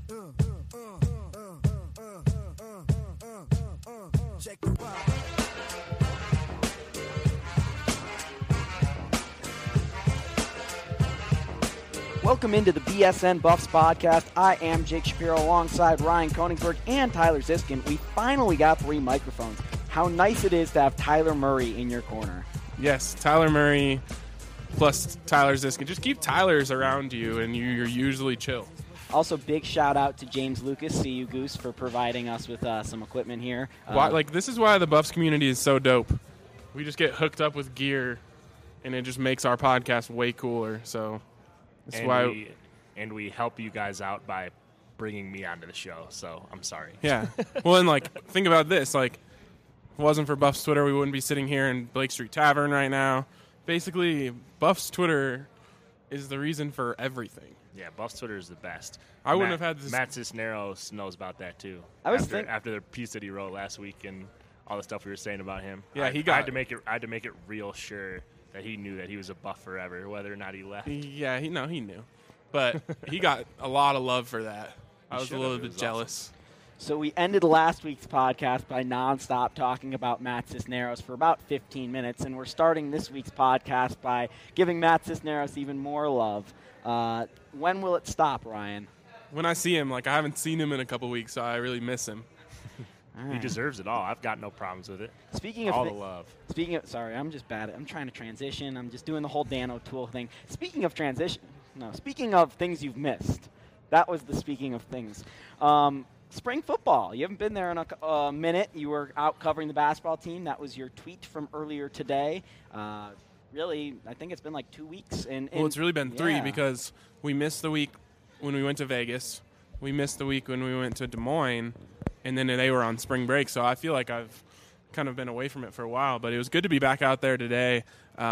Check the vibe. Welcome into the BSN Buffs podcast. I am Jake Shapiro alongside Ryan Koenigsberg and Tyler Ziskin. We finally got 3 microphones. How nice it is to have Tyler Murray in your corner. Yes, Tyler Murray plus Tyler Ziskin. Just keep Tylers around you, and you're usually chill. Also, big shout out to James Lucas, CU Goose, for providing us with some equipment here. This is why the Buffs community is so dope. We just get hooked up with gear, and it just makes our podcast way cooler. So that's why. We help you guys out by bringing me onto the show. So I'm sorry. Yeah. Well, and think about this. If it wasn't for Buffs Twitter, we wouldn't be sitting here in Blake Street Tavern right now. Basically, Buffs Twitter is the reason for everything. Yeah, Buffs Twitter is the best. I wouldn't have had this. Matt Cisneros knows about that too. After the piece that he wrote last week and all the stuff we were saying about him. Yeah, I had to make it real sure that he knew that he was a Buff forever, whether or not he left. Yeah, he knew, but he got a lot of love for that. I was a little bit jealous. Awesome. So we ended last week's podcast by nonstop talking about Matt Cisneros for about 15 minutes, and we're starting this week's podcast by giving Matt Cisneros even more love. When will it stop, Ryan? When I see him. I haven't seen him in a couple weeks, so I really miss him. He deserves it all. I've got no problems with it. Speaking of the love. Sorry, I'm just bad. I'm trying to transition. I'm just doing the whole Dan O'Toole thing. Speaking of things you've missed. That was the speaking of things. Spring football. You haven't been there in a minute. You were out covering the basketball team. That was your tweet from earlier today. Really, I think it's been 2 weeks. Well, it's really been 3 because we missed the week when we went to Vegas. We missed the week when we went to Des Moines, and then they were on spring break. So I feel like I've kind of been away from it for a while. But it was good to be back out there today.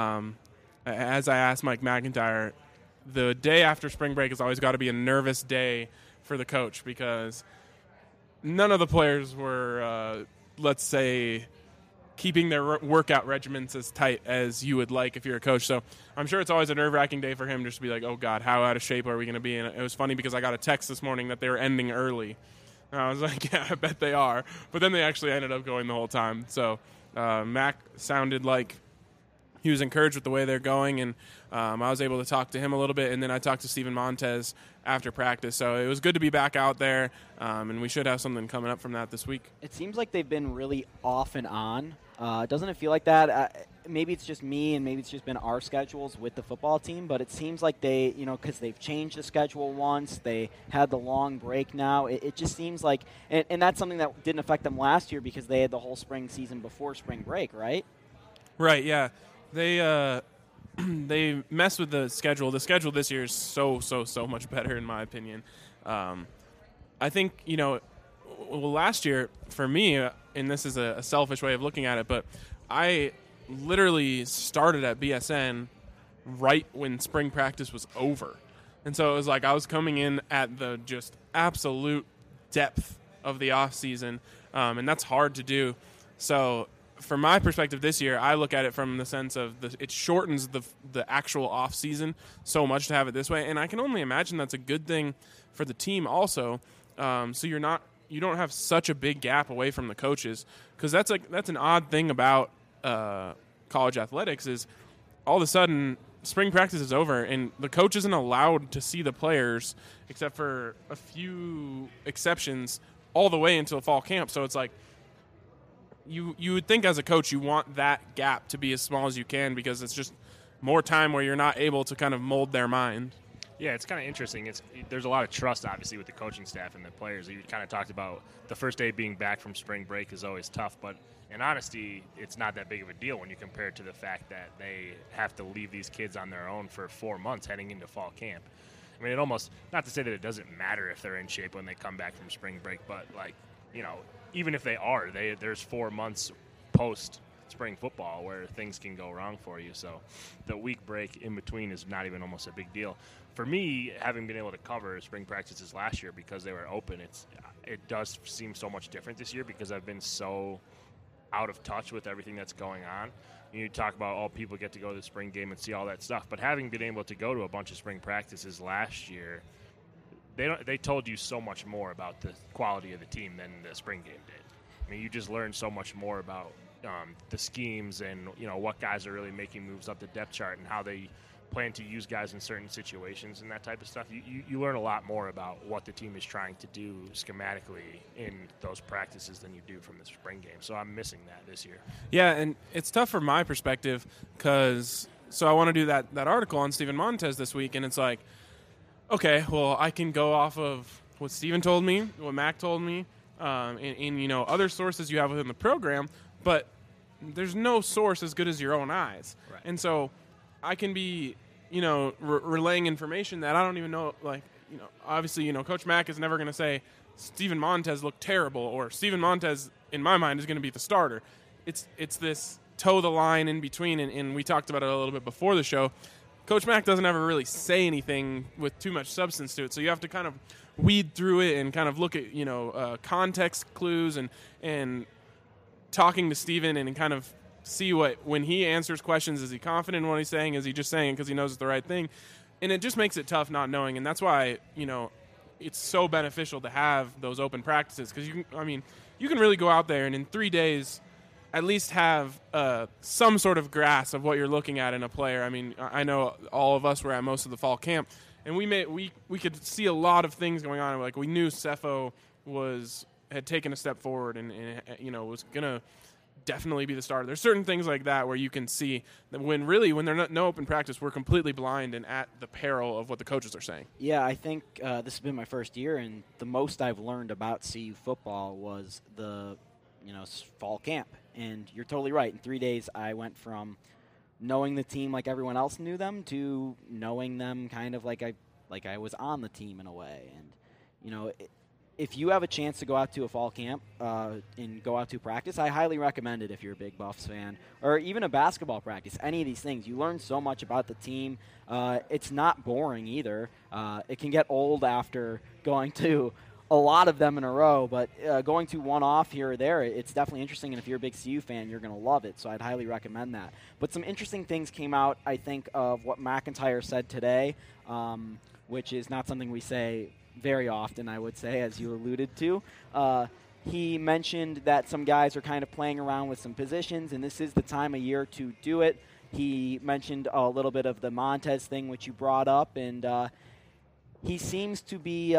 As I asked Mike McIntyre, the day after spring break has always got to be a nervous day for the coach because none of the players were, let's say, keeping their workout regimens as tight as you would like if you're a coach. So I'm sure it's always a nerve-wracking day for him just to be like, oh, God, how out of shape are we going to be? And it was funny because I got a text this morning that they were ending early. And I was like, yeah, I bet they are. But then they actually ended up going the whole time. So Mac sounded like he was encouraged with the way they're going, and I was able to talk to him a little bit, and then I talked to Steven Montez after practice. So it was good to be back out there, and we should have something coming up from that this week. It seems like they've been really off and on. Doesn't it feel like that? Maybe it's just me, and maybe it's just been our schedules with the football team, but it seems like they, because they've changed the schedule once, they had the long break now. It just seems like, and that's something that didn't affect them last year because they had the whole spring season before spring break, right? Right, yeah. They messed with the schedule. The schedule this year is so much better, in my opinion. I think, last year, for me, and this is a selfish way of looking at it, but I literally started at BSN right when spring practice was over. And so it was like I was coming in at the just absolute depth of the off season, and that's hard to do. So from my perspective this year, I look at it from the sense of it shortens the actual off season so much to have it this way, and I can only imagine that's a good thing for the team also. So you don't have such a big gap away from the coaches, because that's an odd thing about college athletics is all of a sudden spring practice is over and the coach isn't allowed to see the players except for a few exceptions all the way until fall camp. So it's like you would think as a coach you want that gap to be as small as you can because it's just more time where you're not able to kind of mold their mind. Yeah, it's kind of interesting. There's a lot of trust, obviously, with the coaching staff and the players. You kind of talked about the first day being back from spring break is always tough, but in honesty, it's not that big of a deal when you compare it to the fact that they have to leave these kids on their own for 4 months heading into fall camp. I mean, it almost, not to say that it doesn't matter if they're in shape when they come back from spring break, but, even if they are, there's 4 months post spring football where things can go wrong for you. So the week break in between is not even almost a big deal. For me, having been able to cover spring practices last year because they were open, it does seem so much different this year because I've been so out of touch with everything that's going on. You talk about, people get to go to the spring game and see all that stuff. But having been able to go to a bunch of spring practices last year, they told you so much more about the quality of the team than the spring game did. I mean, you just learned so much more about the schemes and what guys are really making moves up the depth chart and how they plan to use guys in certain situations and that type of stuff. You learn a lot more about what the team is trying to do schematically in those practices than you do from the spring game. So I'm missing that this year. Yeah, and it's tough from my perspective because I want to do that article on Steven Montez this week, and it's like, okay, well, I can go off of what Steven told me, what Mac told me, and other sources you have within the program, but there's no source as good as your own eyes. Right. And so I can be, relaying information that I don't even know, obviously, Coach Mac is never going to say Steven Montez looked terrible or Steven Montez, in my mind, is going to be the starter. It's this toe the line in between, and we talked about it a little bit before the show. Coach Mac doesn't ever really say anything with too much substance to it, so you have to kind of weed through it and kind of look at context clues and talking to Steven and kind of see when he answers questions, is he confident in what he's saying? Is he just saying it because he knows it's the right thing? And it just makes it tough not knowing, and that's why it's so beneficial to have those open practices because you can really go out there and in 3 days at least have some sort of grasp of what you're looking at in a player. I mean, I know all of us were at most of the fall camp, and we could see a lot of things going on. Like we knew Cepho had taken a step forward and was gonna definitely be the starter. There's certain things like that where you can see that when they're no open practice, we're completely blind and at the peril of what the coaches are saying. Yeah, I think this has been my first year, and the most I've learned about CU football was the fall camp. And you're totally right. In 3 days, I went from knowing the team like everyone else knew them to knowing them kind of like I was on the team in a way. And if you have a chance to go out to a fall camp and go out to practice, I highly recommend it if you're a big Buffs fan, or even a basketball practice, any of these things. You learn so much about the team. It's not boring either. It can get old after going to a lot of them in a row, but going to one off here or there, it's definitely interesting, and if you're a big CU fan, you're going to love it, so I'd highly recommend that. But some interesting things came out, I think, of what McIntyre said today, which is not something we say very often, I would say, as you alluded to. He mentioned that some guys are kind of playing around with some positions, and this is the time of year to do it. He mentioned a little bit of the Montez thing, which you brought up, and he seems to be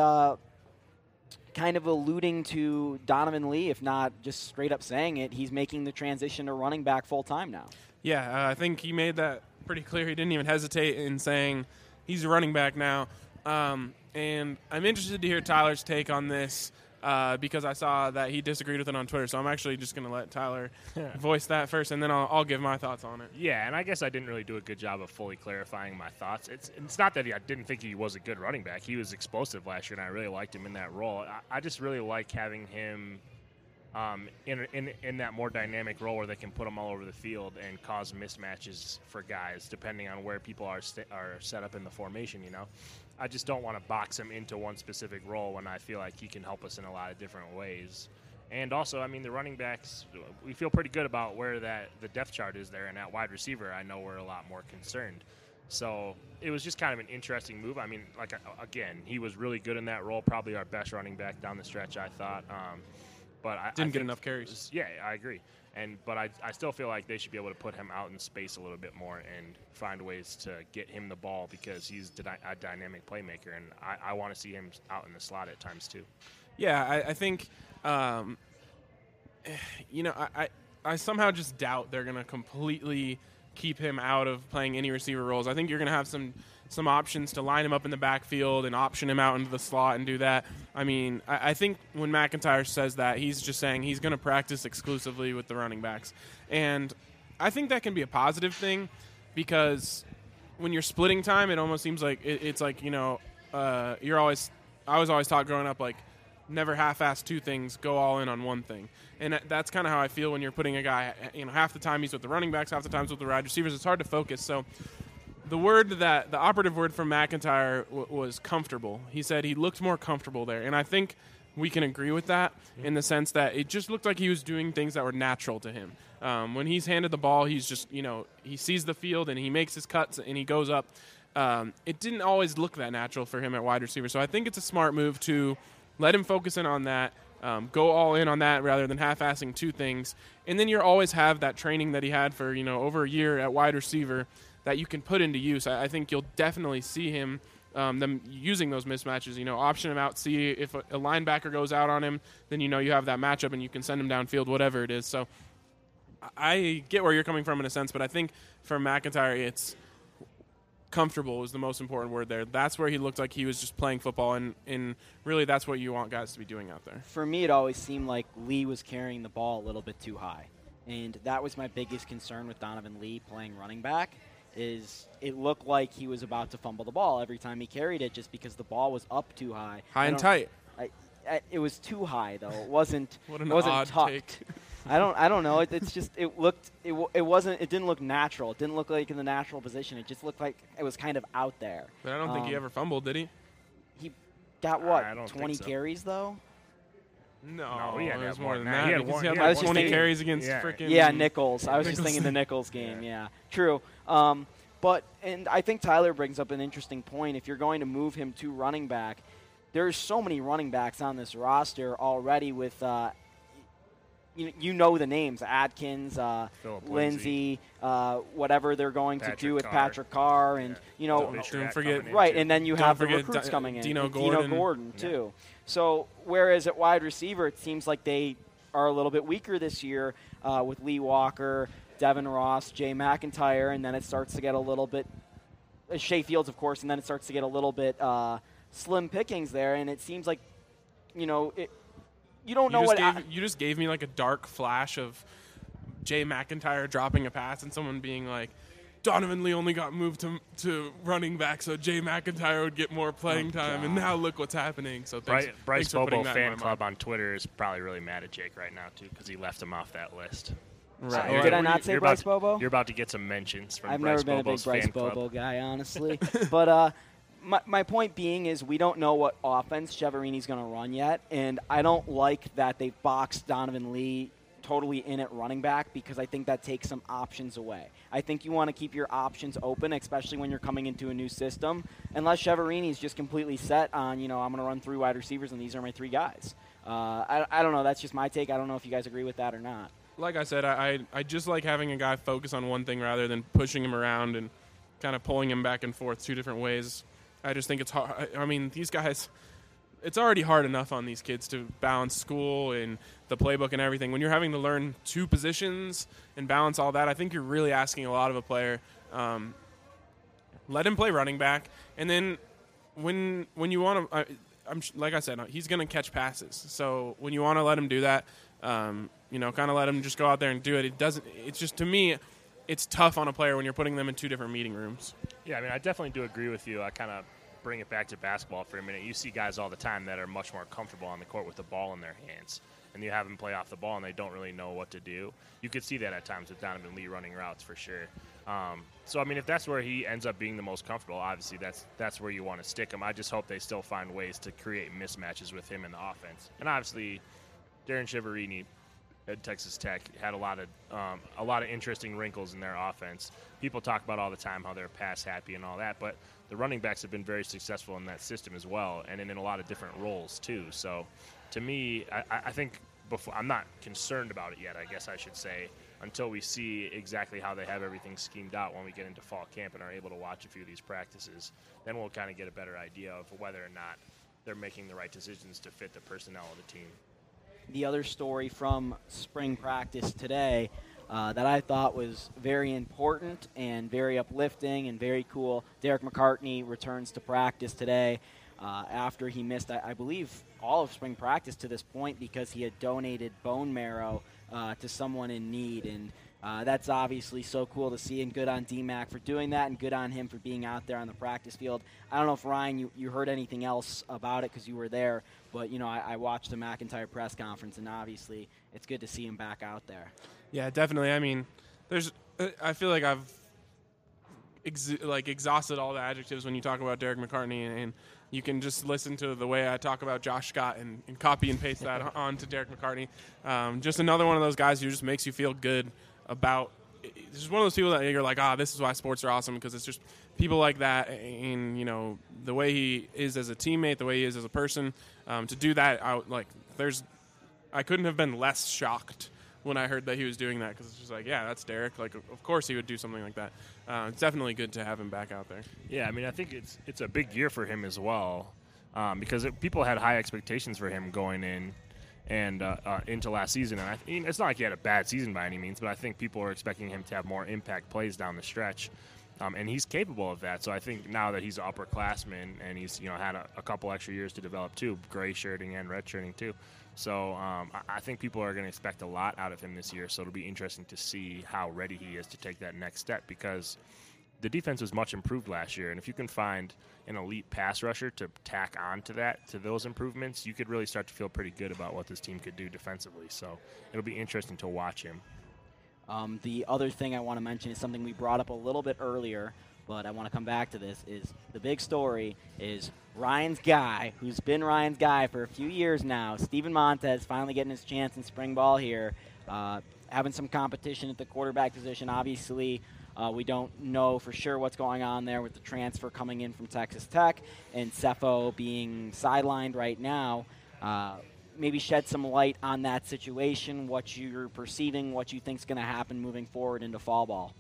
kind of alluding to Donovan Lee, if not just straight up saying it. He's making the transition to running back full-time now. Yeah, I think he made that pretty clear. He didn't even hesitate in saying he's a running back now. And I'm interested to hear Tyler's take on this because I saw that he disagreed with it on Twitter. So I'm actually just going to let Tyler voice that first, and then I'll give my thoughts on it. Yeah, and I guess I didn't really do a good job of fully clarifying my thoughts. It's not that I didn't think he was a good running back. He was explosive last year, and I really liked him in that role. I just really like having him in that more dynamic role where they can put him all over the field and cause mismatches for guys depending on where people are set up in the formation, I just don't want to box him into one specific role when I feel like he can help us in a lot of different ways. And also, the running backs, we feel pretty good about where the depth chart is there, and at wide receiver, I know we're a lot more concerned. So it was just kind of an interesting move. Again, he was really good in that role, probably our best running back down the stretch, I thought. But I didn't get enough carries. Yeah, I agree. But I still feel like they should be able to put him out in space a little bit more and find ways to get him the ball because he's a dynamic playmaker, and I want to see him out in the slot at times too. Yeah, I think, I somehow just doubt they're going to completely keep him out of playing any receiver roles. I think you're going to have some options to line him up in the backfield and option him out into the slot and do that. I think when McIntyre says that, he's just saying he's going to practice exclusively with the running backs. And I think that can be a positive thing because when you're splitting time, it almost seems like it's like, I was always taught growing up, like, never half-ass two things, go all in on one thing. And that's kind of how I feel when you're putting a guy, half the time he's with the running backs, half the time he's with the wide receivers. It's hard to focus. So the operative word from McIntyre was comfortable. He said he looked more comfortable there. And I think we can agree with that in the sense that it just looked like he was doing things that were natural to him. When he's handed the ball, he's just, he sees the field and he makes his cuts and he goes up. it didn't always look that natural for him at wide receiver. So I think it's a smart move to let him focus in on that, go all in on that rather than half-assing two things. And then you always have that training that he had for, over a year at wide receiver that you can put into use. I think you'll definitely see him, them using those mismatches, option him out, see if a linebacker goes out on him, then you have that matchup and you can send him downfield, whatever it is. So I get where you're coming from in a sense, but I think for McIntyre, it's comfortable is the most important word there. That's where he looked like he was just playing football, and really that's what you want guys to be doing out there. For me, it always seemed like Lee was carrying the ball a little bit too high, and that was my biggest concern with Donovan Lee playing running back. Is it looked like he was about to fumble the ball every time he carried it just because the ball was up too high. High and tight. It was too high though. It wasn't. What an it wasn't odd tucked. take. I don't know. It didn't look natural. It didn't look like in the natural position. It just looked like it was kind of out there. But I don't think he ever fumbled, did he? He got what? I don't 20 think so. carries though. No, he had it to was have more more than than that. that. He had Because one- he had he like had 20 one- carries against Yeah. freaking. Yeah, Nichols. I was just Nichols. thinking the Nichols game. Yeah, true. And I think Tyler brings up an interesting point. If you're going to move him to running back, there's so many running backs on this roster already with, you know the names, Adkins, Phillip Lindsay, whatever they're going to Patrick do with Carr. Patrick Carr, and, Don't forget- right, and then you Don't have the forget recruits coming in. Dino and Gordon. too. So whereas at wide receiver, it seems like they are a little bit weaker this year with Lee Walker, Devin Ross, Jay McIntyre, and then it starts to get a little bit Shea Fields, of course, and then it starts to get a little bit slim pickings there, and it seems like, you don't know what. You just gave me like a dark flash of Jay McIntyre dropping a pass and someone being like, Donovan Lee only got moved to running back, so Jay McIntyre would get more playing time, and now look what's happening. So Bryce thanks for putting Bobo that in fan my club mind. on Twitter is probably really mad at Jake right now too because he left him off that list. Right. you're- Did I not say you're Bryce about to- Bobo? You're about to get some mentions from I've Bryce never been Bobo's a big Bryce fan club. Bobo guy, honestly. But my point being is we don't know what offense Cheverini's going to run yet, and I don't like that they boxed Donovan Lee totally in at running back because I think that takes some options away. I think you want to keep your options open, especially when you're coming into a new system, unless Cheverini's just completely set on, I'm going to run 3 wide receivers and these are my 3 guys. I don't know. That's just my take. I don't know if you guys agree with that or not. Like I said, I just like having a guy focus on one thing rather than pushing him around and kind of pulling him back and forth 2 different ways. I just think it's hard. I mean, these guys, it's already hard enough on these kids to balance school and the playbook and everything. When you're having to learn 2 positions and balance all that, I think you're really asking a lot of a player. Let him play running back, and then when you want to, like I said, he's going to catch passes. So when you want to let him do that, kind of let him just go out there and do it. It's just, to me, it's tough on a player when you're putting them in 2 different meeting rooms. Yeah, I mean, I definitely do agree with you. I kind of bring it back to basketball for a minute. You see guys all the time that are much more comfortable on the court with the ball in their hands, and you have them play off the ball and they don't really know what to do. You could see that at times with Donovan Lee running routes for sure. So, I mean, if that's where he ends up being the most comfortable, obviously that's where you want to stick him. I just hope they still find ways to create mismatches with him in the offense. And obviously, Darren Chiaverini at Texas Tech had a lot of interesting wrinkles in their offense. People talk about all the time how they're pass happy and all that, but the running backs have been very successful in that system as well, and in a lot of different roles too. So, to me, I think I'm not concerned about it yet, I guess I should say, until we see exactly how they have everything schemed out when we get into fall camp and are able to watch a few of these practices. Then we'll kind of get a better idea of whether or not they're making the right decisions to fit the personnel of the team. The other story from spring practice today that I thought was very important and very uplifting and very cool, Derek McCartney returns to practice today after he missed, I believe, all of spring practice to this point because he had donated bone marrow to someone in need. And that's obviously so cool to see, and good on DMAC for doing that, and good on him for being out there on the practice field. I don't know if, Ryan, you heard anything else about it because you were there, but, I watched the McIntyre press conference, and obviously it's good to see him back out there. Yeah, definitely. I mean, I feel like I've exhausted all the adjectives when you talk about Derek McCartney, and you can just listen to the way I talk about Josh Scott and copy and paste that onto Derek McCartney. Just another one of those guys who just makes you feel good about it's just one of those people that you're like, this is why sports are awesome, because it's just people like that, and the way he is as a teammate, the way he is as a person. To do that, I couldn't have been less shocked when I heard that he was doing that, because it's just like, yeah, that's Derek. Like, of course he would do something like that. It's definitely good to have him back out there. Yeah, I mean, I think it's a big year for him as well, because people had high expectations for him going in and into last season. And it's not like he had a bad season by any means, but I think people are expecting him to have more impact plays down the stretch. And he's capable of that. So I think now that he's an upperclassman and he's had a couple extra years to develop too, gray shirting and red shirting too. So I think people are going to expect a lot out of him this year. So it'll be interesting to see how ready he is to take that next step, because the defense was much improved last year. And if you can find an elite pass rusher to tack on to those improvements, you could really start to feel pretty good about what this team could do defensively. So it'll be interesting to watch him. The other thing I want to mention is something we brought up a little bit earlier, but I want to come back to this, is the big story is Ryan's guy, who's been Ryan's guy for a few years now, Steven Montez, finally getting his chance in spring ball here, having some competition at the quarterback position. Obviously, we don't know for sure what's going on there with the transfer coming in from Texas Tech and Cepho being sidelined right now. Maybe shed some light on that situation, what you're perceiving, what you think is going to happen moving forward into fall ball.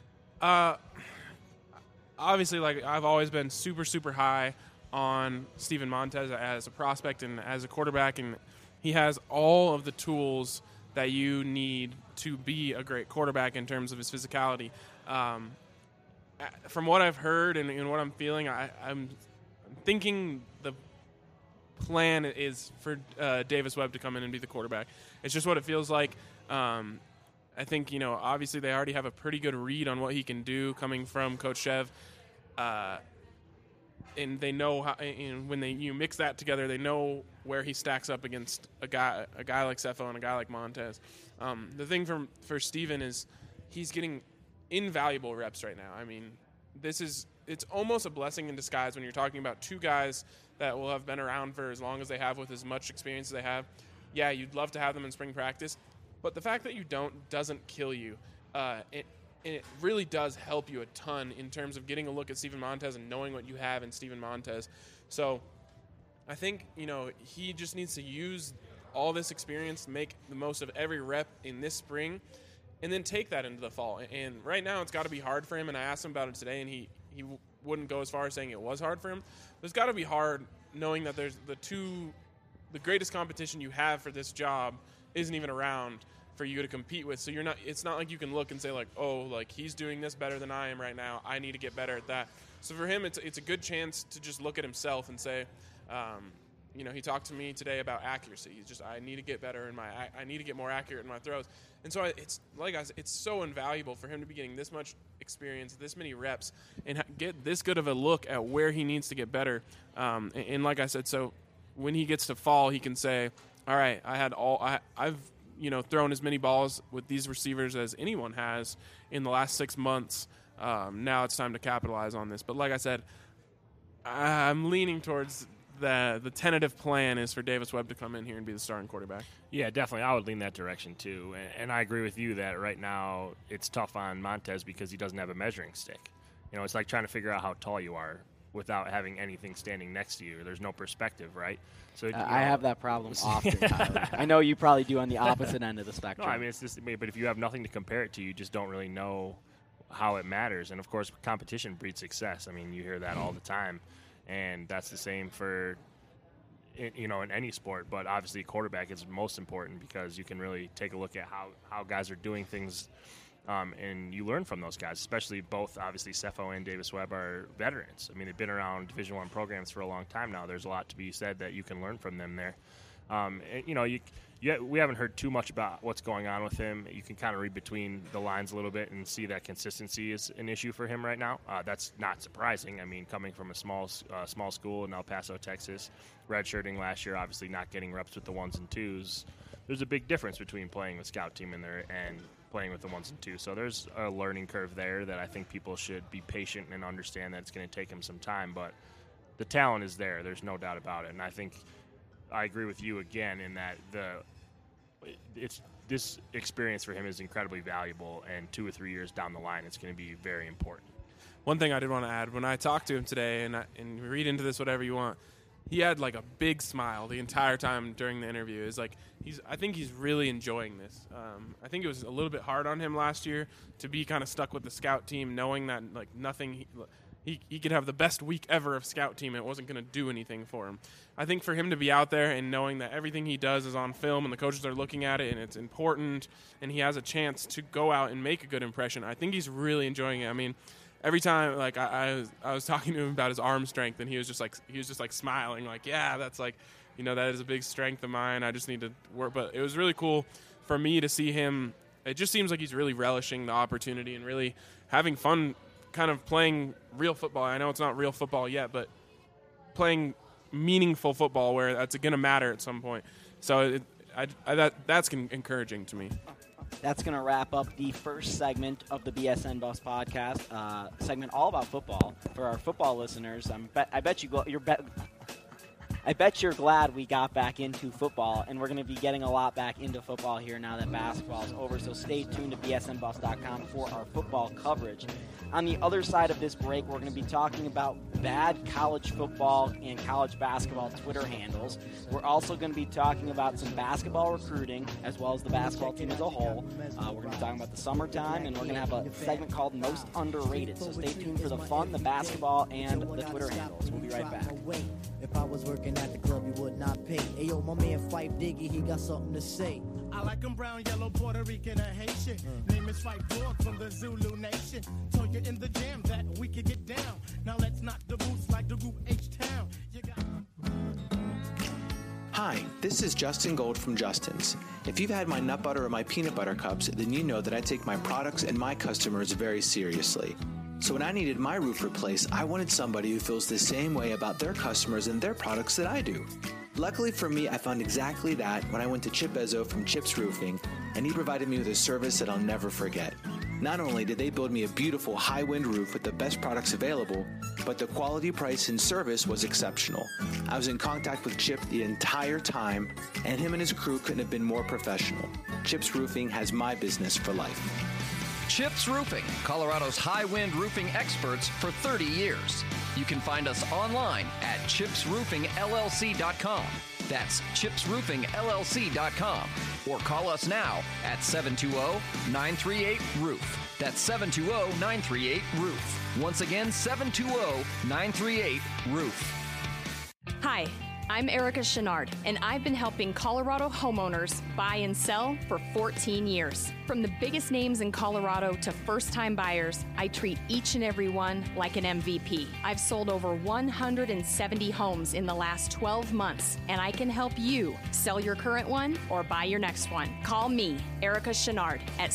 Obviously, like, I've always been super, super high on Steven Montez as a prospect and as a quarterback, and he has all of the tools that you need to be a great quarterback in terms of his physicality. From what I've heard and what I'm feeling, I'm thinking the plan is for Davis Webb to come in and be the quarterback. It's just what it feels like. I think, obviously they already have a pretty good read on what he can do coming from Coach Chev. And they know how, and when you mix that together, they know where he stacks up against a guy like Cepho and a guy like Montez. The thing for Steven is he's getting invaluable reps right now. I mean, it's almost a blessing in disguise when you're talking about two guys that will have been around for as long as they have with as much experience as they have. Yeah, you'd love to have them in spring practice, but the fact that you doesn't kill you. It really does help you a ton in terms of getting a look at Steven Montez and knowing what you have in Steven Montez. So I think, he just needs to use all this experience to make the most of every rep in this spring and then take that into the fall. And right now it's got to be hard for him, and I asked him about it today, and he wouldn't go as far as saying it was hard for him. But it's got to be hard knowing that there's the greatest competition you have for this job isn't even around for you to compete with. So it's not like you can look and say, like, oh, like, he's doing this better than I am right now, I need to get better at that. So for him, it's a good chance to just look at himself and say, he talked to me today about accuracy. He's just, I need to get better I need to get more accurate in my throws. And so it's like I said, it's so invaluable for him to be getting this much experience, this many reps, and get this good of a look at where he needs to get better. And like I said, so when he gets to fall, he can say, all right, I've thrown as many balls with these receivers as anyone has in the last 6 months. Now it's time to capitalize on this. But like I said, I'm leaning towards the tentative plan is for Davis Webb to come in here and be the starting quarterback. Yeah, definitely. I would lean that direction too. And I agree with you that right now it's tough on Montez because he doesn't have a measuring stick. It's like trying to figure out how tall you are without having anything standing next to you. There's no perspective, right? So I have that problem often, Tyler. I know you probably do on the opposite end of the spectrum. No, I mean, it's just, but if you have nothing to compare it to, you just don't really know how it matters. And, of course, competition breeds success. I mean, you hear that all the time. And that's the same for, in any sport. But obviously quarterback is most important because you can really take a look at how guys are doing things. And you learn from those guys, especially both, obviously, Cepho and Davis Webb are veterans. I mean, they've been around Division I programs for a long time now. There's a lot to be said that you can learn from them there. We haven't heard too much about what's going on with him. You can kind of read between the lines a little bit and see that consistency is an issue for him right now. That's not surprising. I mean, coming from a small school in El Paso, Texas, redshirting last year, obviously not getting reps with the 1s and 2s. There's a big difference between playing with scout team in there and playing with the 1s and 2s. So there's a learning curve there that I think people should be patient and understand that it's going to take him some time. But the talent is there. There's no doubt about it. And I think I agree with you again in that this experience for him is incredibly valuable, and 2 or 3 years down the line, it's going to be very important. One thing I did want to add, when I talked to him today, and read into this whatever you want, he had like a big smile the entire time during the interview. It's like I think he's really enjoying this. I think it was a little bit hard on him last year to be kind of stuck with the scout team, knowing that like nothing. He could have the best week ever of scout team. It wasn't going to do anything for him. I think for him to be out there and knowing that everything he does is on film and the coaches are looking at it and it's important and he has a chance to go out and make a good impression, I think he's really enjoying it. I mean, every time, like I was talking to him about his arm strength, and he was just like smiling, like, yeah, that's like, that is a big strength of mine. I just need to work. But it was really cool for me to see him. It just seems like he's really relishing the opportunity and really having fun, kind of playing real football. I know it's not real football yet, but playing meaningful football where that's going to matter at some point. So that's encouraging to me. That's going to wrap up the first segment of the BSN Buffs podcast, segment all about football. For our football listeners, I bet you're glad we got back into football, and we're going to be getting a lot back into football here now that basketball is over. So stay tuned to bsnbuffs.com for our football coverage. On the other side of this break, we're going to be talking about bad college football and college basketball Twitter handles. We're also going to be talking about some basketball recruiting as well as the basketball team as a whole. We're going to be talking about the summertime, and we're going to have a segment called Most Underrated. So stay tuned for the fun, the basketball, and the Twitter handles. We'll be right back. If I was working at the club, you would not pay. Hey, yo, my man Fife Diggy, he got something to say. I like him brown, yellow, Puerto Rican, or Haitian. Name is Fife Dog from the Zulu Nation. Told you in the jam that we could get down. Now let's knock the boots like the group H-Town. Hi, this is Justin Gold from Justin's. If you've had my nut butter or my peanut butter cups, then you know that I take my products and my customers very seriously. So when I needed my roof replaced, I wanted somebody who feels the same way about their customers and their products that I do. Luckily for me, I found exactly that when I went to Chip Ezzo from Chip's Roofing, and he provided me with a service that I'll never forget. Not only did they build me a beautiful high-wind roof with the best products available, but the quality, price, and service was exceptional. I was in contact with Chip the entire time, and him and his crew couldn't have been more professional. Chip's Roofing has my business for life. Chips Roofing, Colorado's high-wind roofing experts for 30 years. You can find us online at chipsroofingllc.com. That's chipsroofingllc.com. Or call us now at 720-938-ROOF. That's 720-938-ROOF. Once again, 720-938-ROOF. Hi, I'm Erica Chenard, and I've been helping Colorado homeowners buy and sell for 14 years. From the biggest names in Colorado to first-time buyers, I treat each and every one like an MVP. I've sold over 170 homes in the last 12 months, and I can help you sell your current one or buy your next one. Call me, Erica Chenard, at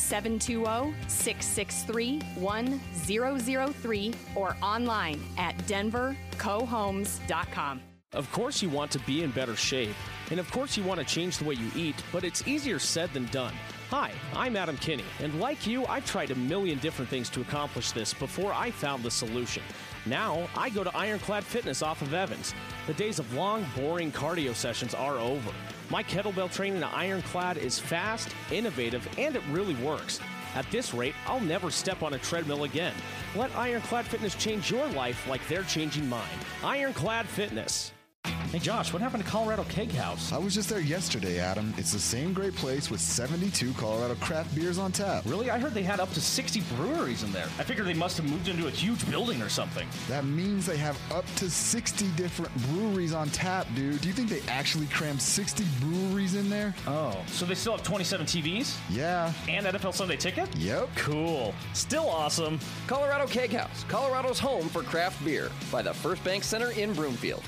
720-663-1003 or online at denvercohomes.com. Of course you want to be in better shape, and of course you want to change the way you eat, but it's easier said than done. Hi, I'm Adam Kinney, and like you, I've tried a million different things to accomplish this before I found the solution. Now, I go to Ironclad Fitness off of Evans. The days of long, boring cardio sessions are over. My kettlebell training at Ironclad is fast, innovative, and it really works. At this rate, I'll never step on a treadmill again. Let Ironclad Fitness change your life like they're changing mine. Ironclad Fitness. Hey Josh, what happened to Colorado Keg House? I was just there yesterday, Adam. It's the same great place with 72 Colorado craft beers on tap. Really? I heard they had up to 60 breweries in there. I figured they must have moved into a huge building or something. That means they have up to 60 different breweries on tap, dude. Do you think they actually crammed 60 breweries in there? Oh, so they still have 27 TVs? Yeah. And NFL Sunday Ticket? Yep. Cool. Still awesome. Colorado Keg House, Colorado's home for craft beer, by the First Bank Center in Broomfield.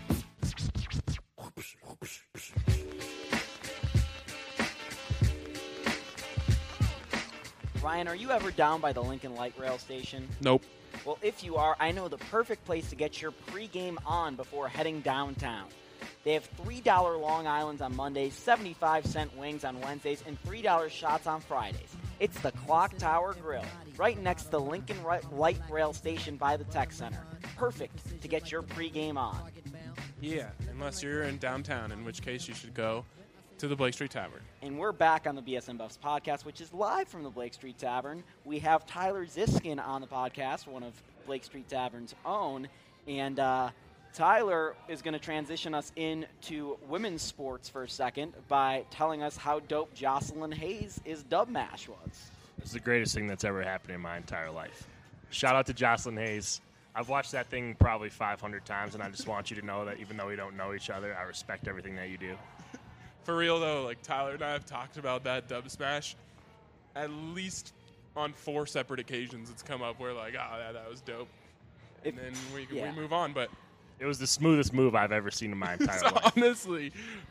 Ryan, are you ever down by the Lincoln Light Rail Station? Nope. Well, if you are, I know the perfect place to get your pregame on before heading downtown. They have $3 Long Islands on Mondays, 75-cent wings on Wednesdays, and $3 shots on Fridays. It's the Clock Tower Grill, right next to the Lincoln Light Rail Station by the Tech Center. Perfect to get your pregame on. Yeah, unless you're in downtown, in which case you should go to the Blake Street Tavern. And we're back on the BSN Buffs podcast, which is live from the Blake Street Tavern. We have Tyler Ziskin on the podcast, one of Blake Street Tavern's own. And Tyler is going to transition us into women's sports for a second by telling us how dope Jocelyn Hayes' Dub Mash was. It's the greatest thing that's ever happened in my entire life. Shout out to Jocelyn Hayes. I've watched that thing probably 500 times, and I just want you to know that even though we don't know each other, I respect everything that you do. For real, though, like Tyler and I have talked about that Dub Smash at least on 4 separate occasions. It's come up where, like, oh, that was dope. And then we move on. But it was the smoothest move I've ever seen in my entire life. Honestly,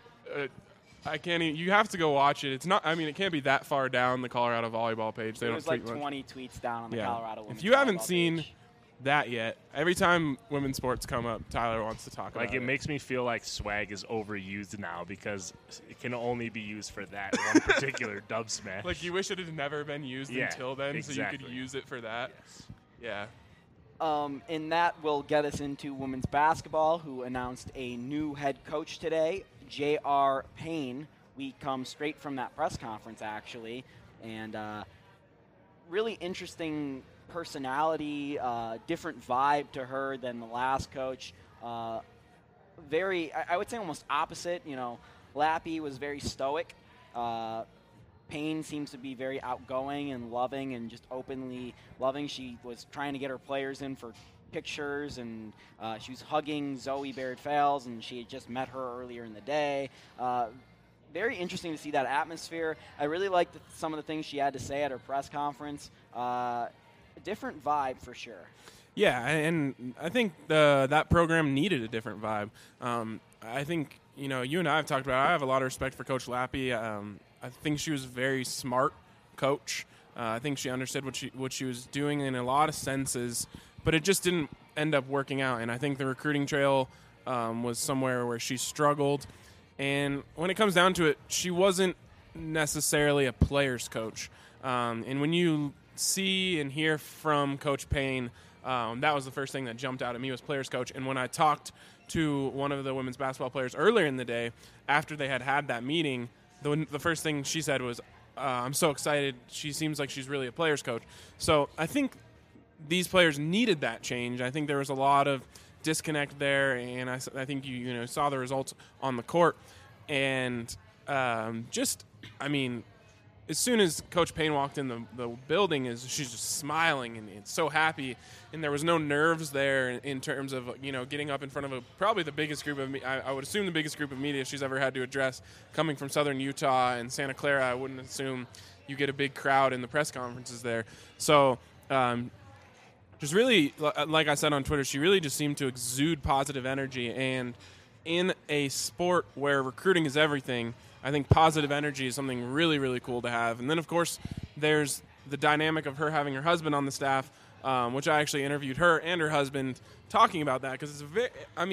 I can't even. You have to go watch it. It's not. I mean, it can't be that far down the Colorado volleyball page. They it don't was like tweet 20 much. tweets down on the Colorado women's If you haven't volleyball seen page. that yet, every time women's sports come up, Tyler wants to talk about it. Like, it makes me feel like swag is overused now because it can only be used for that one particular Dub Smash. Like, you wish it had never been used until then, so you could use it for that. Yes. Yeah. And that will get us into women's basketball, who announced a new head coach today, J.R. Payne. We come straight from that press conference, actually, and really interesting personality, different vibe to her than the last coach. Very, I would say almost opposite. You know, Lappy was very stoic. Payne seems to be very outgoing and loving and just openly loving. She was trying to get her players in for pictures, and she was hugging Zoe Barrett-Fales, and she had just met her earlier in the day. Very interesting to see that atmosphere. I really liked some of the things she had to say at her press conference. A different vibe for sure. Yeah, and I think that program needed a different vibe. I think, you know, you and I have talked about it. I have a lot of respect for Coach Lappy. I think she was a very smart coach. I think she understood what she was doing in a lot of senses, but it just didn't end up working out. And I think the recruiting trail was somewhere where she struggled. And when it comes down to it, she wasn't necessarily a player's coach. And when you see and hear from Coach Payne, that was the first thing that jumped out at me was player's coach. And when I talked to one of the women's basketball players earlier in the day, after they had that meeting, the first thing she said was, I'm so excited. She seems like she's really a player's coach. So I think these players needed that change. I think there was a lot of disconnect there, and I think you saw the results on the court. And as soon as Coach Payne walked in the building, she's just smiling and so happy, and there was no nerves there in terms of getting up in front of probably the biggest group of I would assume the biggest group of media she's ever had to address, coming from Southern Utah and Santa Clara. I wouldn't assume you get a big crowd in the press conferences there. So just really, like I said on Twitter, she really just seemed to exude positive energy, and in a sport where recruiting is everything, I think positive energy is something really, really cool to have. And then, of course, there's the dynamic of her having her husband on the staff, which I actually interviewed her and her husband talking about that, because it's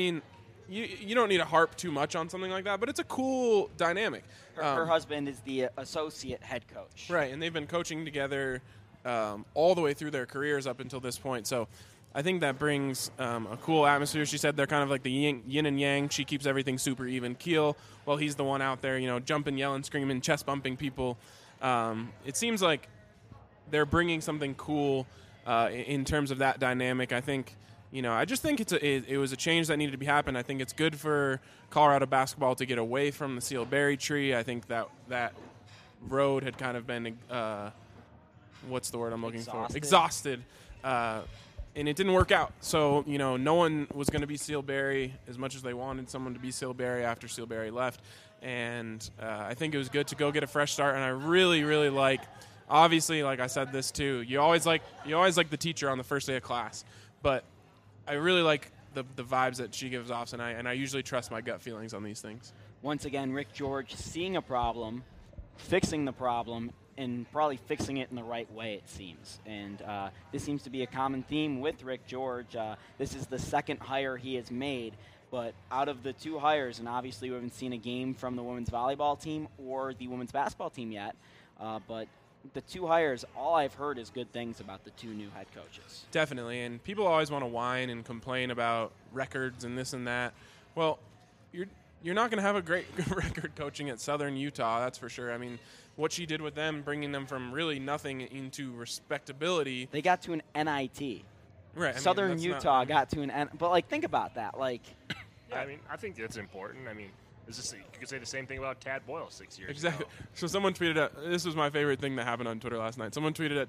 you don't need to harp too much on something like that, but it's a cool dynamic. Her husband is the associate head coach. Right, and they've been coaching together all the way through their careers up until this point. So I think that brings a cool atmosphere. She said they're kind of like the yin and yang. She keeps everything super even keel while he's the one out there, jumping, yelling, screaming, chest bumping people. It seems like they're bringing something cool in terms of that dynamic. I think, I just think it was a change that needed to be happened. I think it's good for Colorado basketball to get away from the sealed berry tree. I think that road had kind of been, what's the word I'm looking for? Exhausted. And it didn't work out. So, no one was going to be Seal Berry as much as they wanted someone to be Seal Berry after Seal Berry left. And I think it was good to go get a fresh start. And I really, really like, obviously, like I said this too, you always like the teacher on the first day of class. But I really like the vibes that she gives off, and I usually trust my gut feelings on these things. Once again, Rick George seeing a problem, fixing the problem, and probably fixing it in the right way, it seems. And this seems to be a common theme with Rick George. This is the second hire he has made. But out of the two hires, and obviously we haven't seen a game from the women's volleyball team or the women's basketball team yet, but the two hires, all I've heard is good things about the two new head coaches. Definitely, and people always want to whine and complain about records and this and that. Well, you're not going to have a great record coaching at Southern Utah, that's for sure. I mean, what she did with them, bringing them from really nothing into respectability. They got to an NIT. Right. Southern Utah got to an but like think about that. Like, yeah, I mean, I think that's important. I mean, you could say the same thing about Tad Boyle 6 years exactly. ago. So someone tweeted this was my favorite thing that happened on Twitter last night. Someone tweeted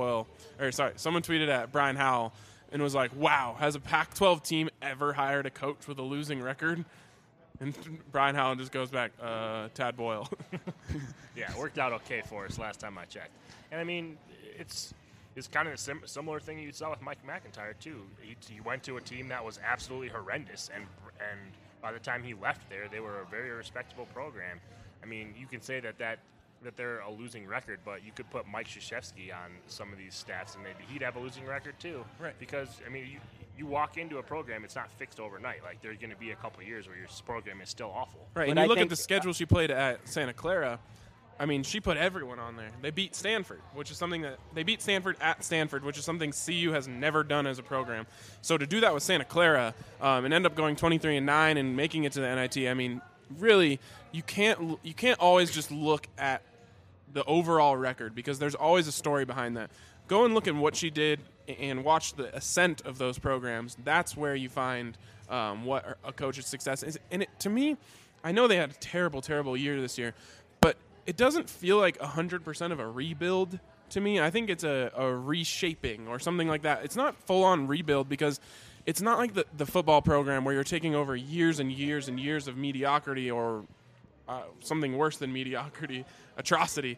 at Brian Howell and was like, "Wow, has a Pac-12 team ever hired a coach with a losing record?" And Brian Howell just goes back, Tad Boyle. Yeah, it worked out okay for us last time I checked. And, I mean, it's kind of a similar thing you saw with Mike McIntyre, too. He went to a team that was absolutely horrendous, and by the time he left there, they were a very respectable program. I mean, you can say that they're a losing record, but you could put Mike Krzyzewski on some of these stats, and maybe he'd have a losing record, too. Right. Because, I mean, you walk into a program, it's not fixed overnight. Like, there's going to be a couple of years where your program is still awful. Right, and you look at the schedule she played at Santa Clara. I mean, she put everyone on there. They beat Stanford, they beat Stanford at Stanford, which is something CU has never done as a program. So to do that with Santa Clara and end up going 23-9 and making it to the NIT, I mean, really, you can't always just look at the overall record because there's always a story behind that. Go and look at what she did and watch the ascent of those programs. That's where you find what a coach's success is. And to me, I know they had a terrible, terrible year this year, but it doesn't feel like 100% of a rebuild to me. I think it's a reshaping or something like that. It's not full-on rebuild because it's not like the football program where you're taking over years and years and years of mediocrity or something worse than mediocrity, atrocity.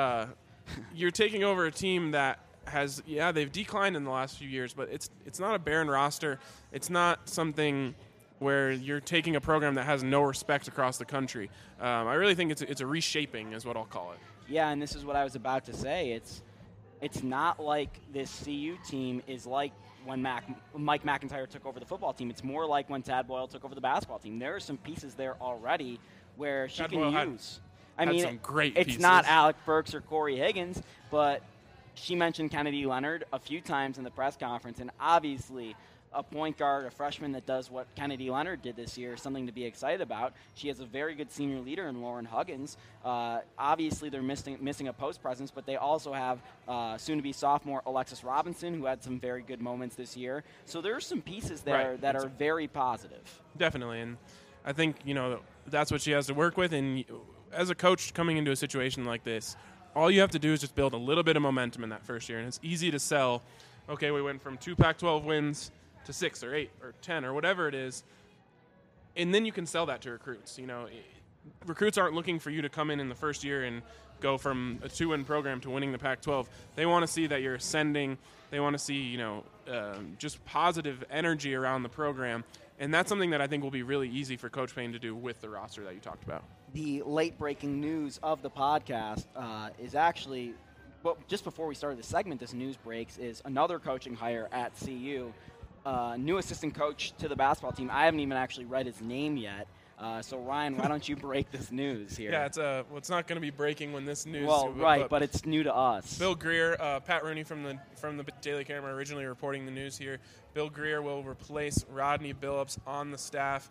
You're taking over a team that they've declined in the last few years, but it's not a barren roster. It's not something where you're taking a program that has no respect across the country. I really think it's a reshaping is what I'll call it. Yeah, and this is what I was about to say. It's not like this CU team is like when Mike McIntyre took over the football team. It's more like when Tad Boyle took over the basketball team. There are some pieces there already where she can use. I mean, some great it's pieces. not Alec Burks or Corey Higgins, but she mentioned Kennedy Leonard a few times in the press conference, and obviously a point guard, a freshman that does what Kennedy Leonard did this year is something to be excited about. She has a very good senior leader in Lauren Huggins. Obviously, they're missing a post presence, but they also have soon-to-be sophomore Alexis Robinson, who had some very good moments this year. So there are some pieces there that are very positive. Definitely, and I think that's what she has to work with. And as a coach coming into a situation like this, all you have to do is just build a little bit of momentum in that first year, and it's easy to sell. Okay, we went from 2 Pac-12 wins to 6 or 8 or 10 or whatever it is, and then you can sell that to recruits. Recruits aren't looking for you to come in the first year and go from a 2-win program to winning the Pac-12. They want to see that you're ascending. They want to see just positive energy around the program, and that's something that I think will be really easy for Coach Payne to do with the roster that you talked about. The late-breaking news of the podcast is actually, well, just before we started the segment, this news breaks, is another coaching hire at CU. New assistant coach to the basketball team. I haven't even actually read his name yet. So, Ryan, why don't you break this news here? Yeah, it's not going to be breaking when this news. Well, right, but it's new to us. Bill Greer, Pat Rooney from the Daily Camera, originally reporting the news here. Bill Greer will replace Rodney Billups on the staff.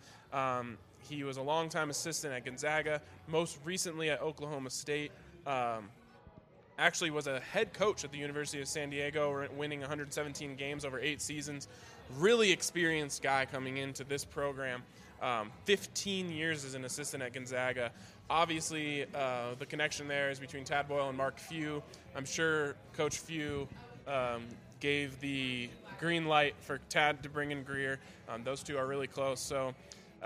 He was a longtime assistant at Gonzaga, most recently at Oklahoma State. Actually was a head coach at the University of San Diego, winning 117 games over 8 seasons. Really experienced guy coming into this program. 15 years as an assistant at Gonzaga. Obviously, the connection there is between Tad Boyle and Mark Few. I'm sure Coach Few gave the green light for Tad to bring in Greer. Those two are really close. So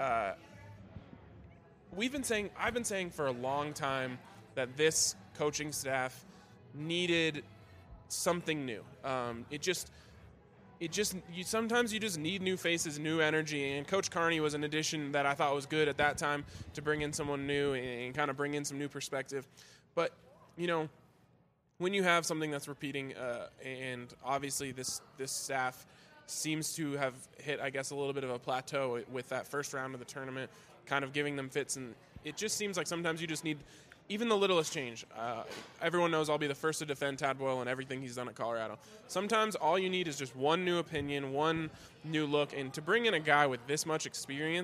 I've been saying for a long time that this coaching staff needed something new. Sometimes you just need new faces, new energy, and Coach Carney was an addition that I thought was good at that time to bring in someone new and kind of bring in some new perspective. But, when you have something that's repeating, and obviously this staff seems to have hit, I guess, a little bit of a plateau with that first round of the tournament, kind of giving them fits, and it just seems like sometimes you just need even the littlest change. Everyone knows I'll be the first to defend Tad Boyle and everything he's done at Colorado. Sometimes all you need is just one new opinion, one new look, and to bring in a guy with this much experience,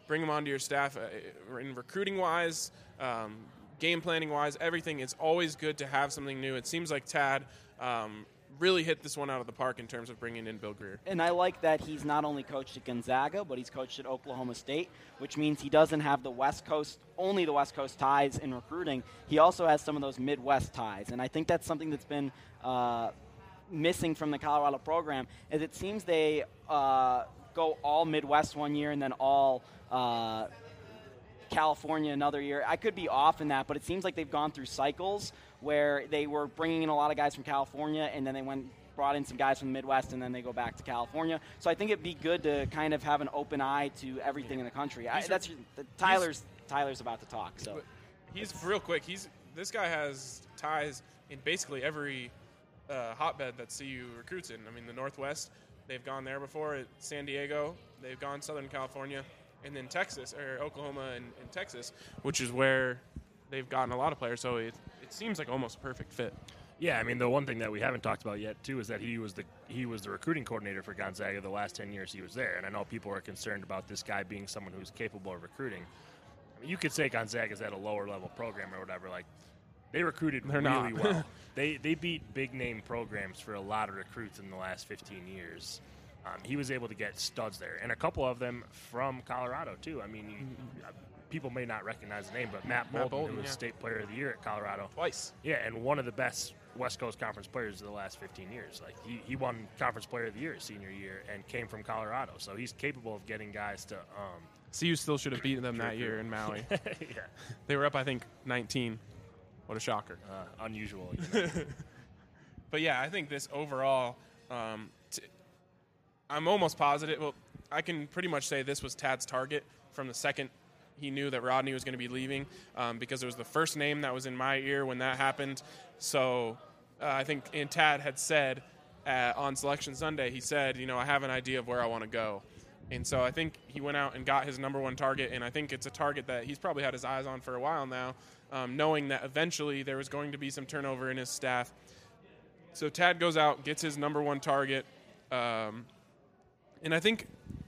bring him onto your staff in recruiting-wise, game planning-wise, everything. It's always good to have something new. It seems like Tad really hit this one out of the park in terms of bringing in Bill Greer. And I like that he's not only coached at Gonzaga, but he's coached at Oklahoma State, which means he doesn't have only the West Coast ties in recruiting. He also has some of those Midwest ties. And I think that's something that's been missing from the Colorado program, is it seems they go all Midwest one year and then all California another year. I could be off in that, but it seems like they've gone through cycles where they were bringing in a lot of guys from California, and then they brought in some guys from the Midwest, and then they go back to California. So I think it'd be good to kind of have an open eye to everything in the country. Tyler's about to talk. So he's real quick. This guy has ties in basically every hotbed that CU recruits in. I mean, the Northwest, they've gone there before. At San Diego, they've gone Southern California, and then Texas, or Oklahoma and Texas, which is where they've gotten a lot of players. So it seems like almost a perfect fit. Yeah, I mean, the one thing that we haven't talked about yet, too, is that he was the recruiting coordinator for Gonzaga the last 10 years he was there. And I know people are concerned about this guy being someone who's capable of recruiting. I mean, you could say Gonzaga's at a lower-level program or whatever. Like, they recruited really well. They beat big-name programs for a lot of recruits in the last 15 years. He was able to get studs there, and a couple of them from Colorado, too. I mean, people may not recognize the name, but Matt Bolton, who was State Player of the Year at Colorado. Twice. Yeah, and one of the best West Coast Conference players of the last 15 years. Like, he won Conference Player of the Year his senior year and came from Colorado. So he's capable of getting guys to CU still should have beaten them that year in Maui. Yeah. They were up, I think, 19. What a shocker. Unusual. You know? But, yeah, I think this overall, I'm almost positive. Well, I can pretty much say this was Tad's target from the second he knew that Rodney was going to be leaving, because it was the first name that was in my ear when that happened. So I think Tad had said on Selection Sunday, he said, I have an idea of where I want to go. And so I think he went out and got his number one target, and I think it's a target that he's probably had his eyes on for a while now, knowing that eventually there was going to be some turnover in his staff. So Tad goes out, gets his number one target, and I think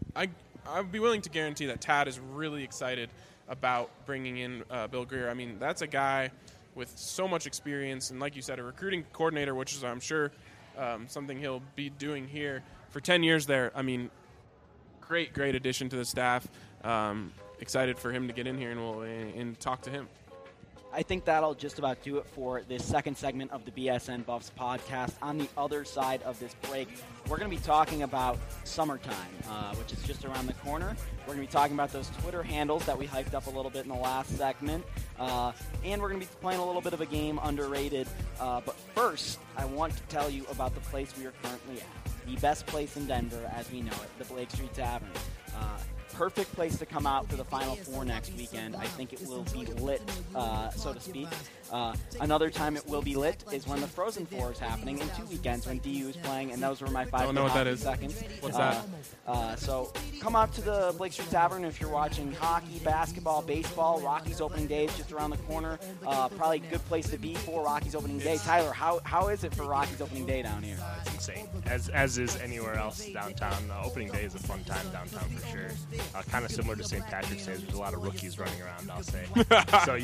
I'd be willing to guarantee that Tad is really excited about bringing in Bill Greer. I mean, that's a guy with so much experience, and like you said, a recruiting coordinator, which is, I'm sure, something he'll be doing here for 10 years there. I mean, great addition to the staff. Excited for him to get in here and talk to him. I think that'll just about do it for this second segment of the BSN Buffs podcast. On the other side of this break, we're going to be talking about summertime, which is just around the corner. We're going to be talking about those Twitter handles that we hyped up a little bit in the last segment. And we're going to be playing a little bit of a game, Underrated. But first, I want to tell you about the place we are currently at. The best place in Denver, as we know it, the Blake Street Tavern. Perfect place to come out for the Final Four next weekend. I think it will be lit, so to speak. Another time it will be lit is when the Frozen Four is happening in 2 weekends when DU is playing, and those were my 5 know what that is. seconds. What's that? So come out to the Blake Street Tavern if you're watching hockey, basketball, baseball. Rockies opening day is just around the corner. Probably a good place to be for Rockies opening day. Tyler, how is it for Rockies opening day down here? It's insane, as is anywhere else downtown. Opening day is a fun time downtown for sure. Kind of similar to St. Patrick's Day. There's a lot of rookies running around, I'll say. So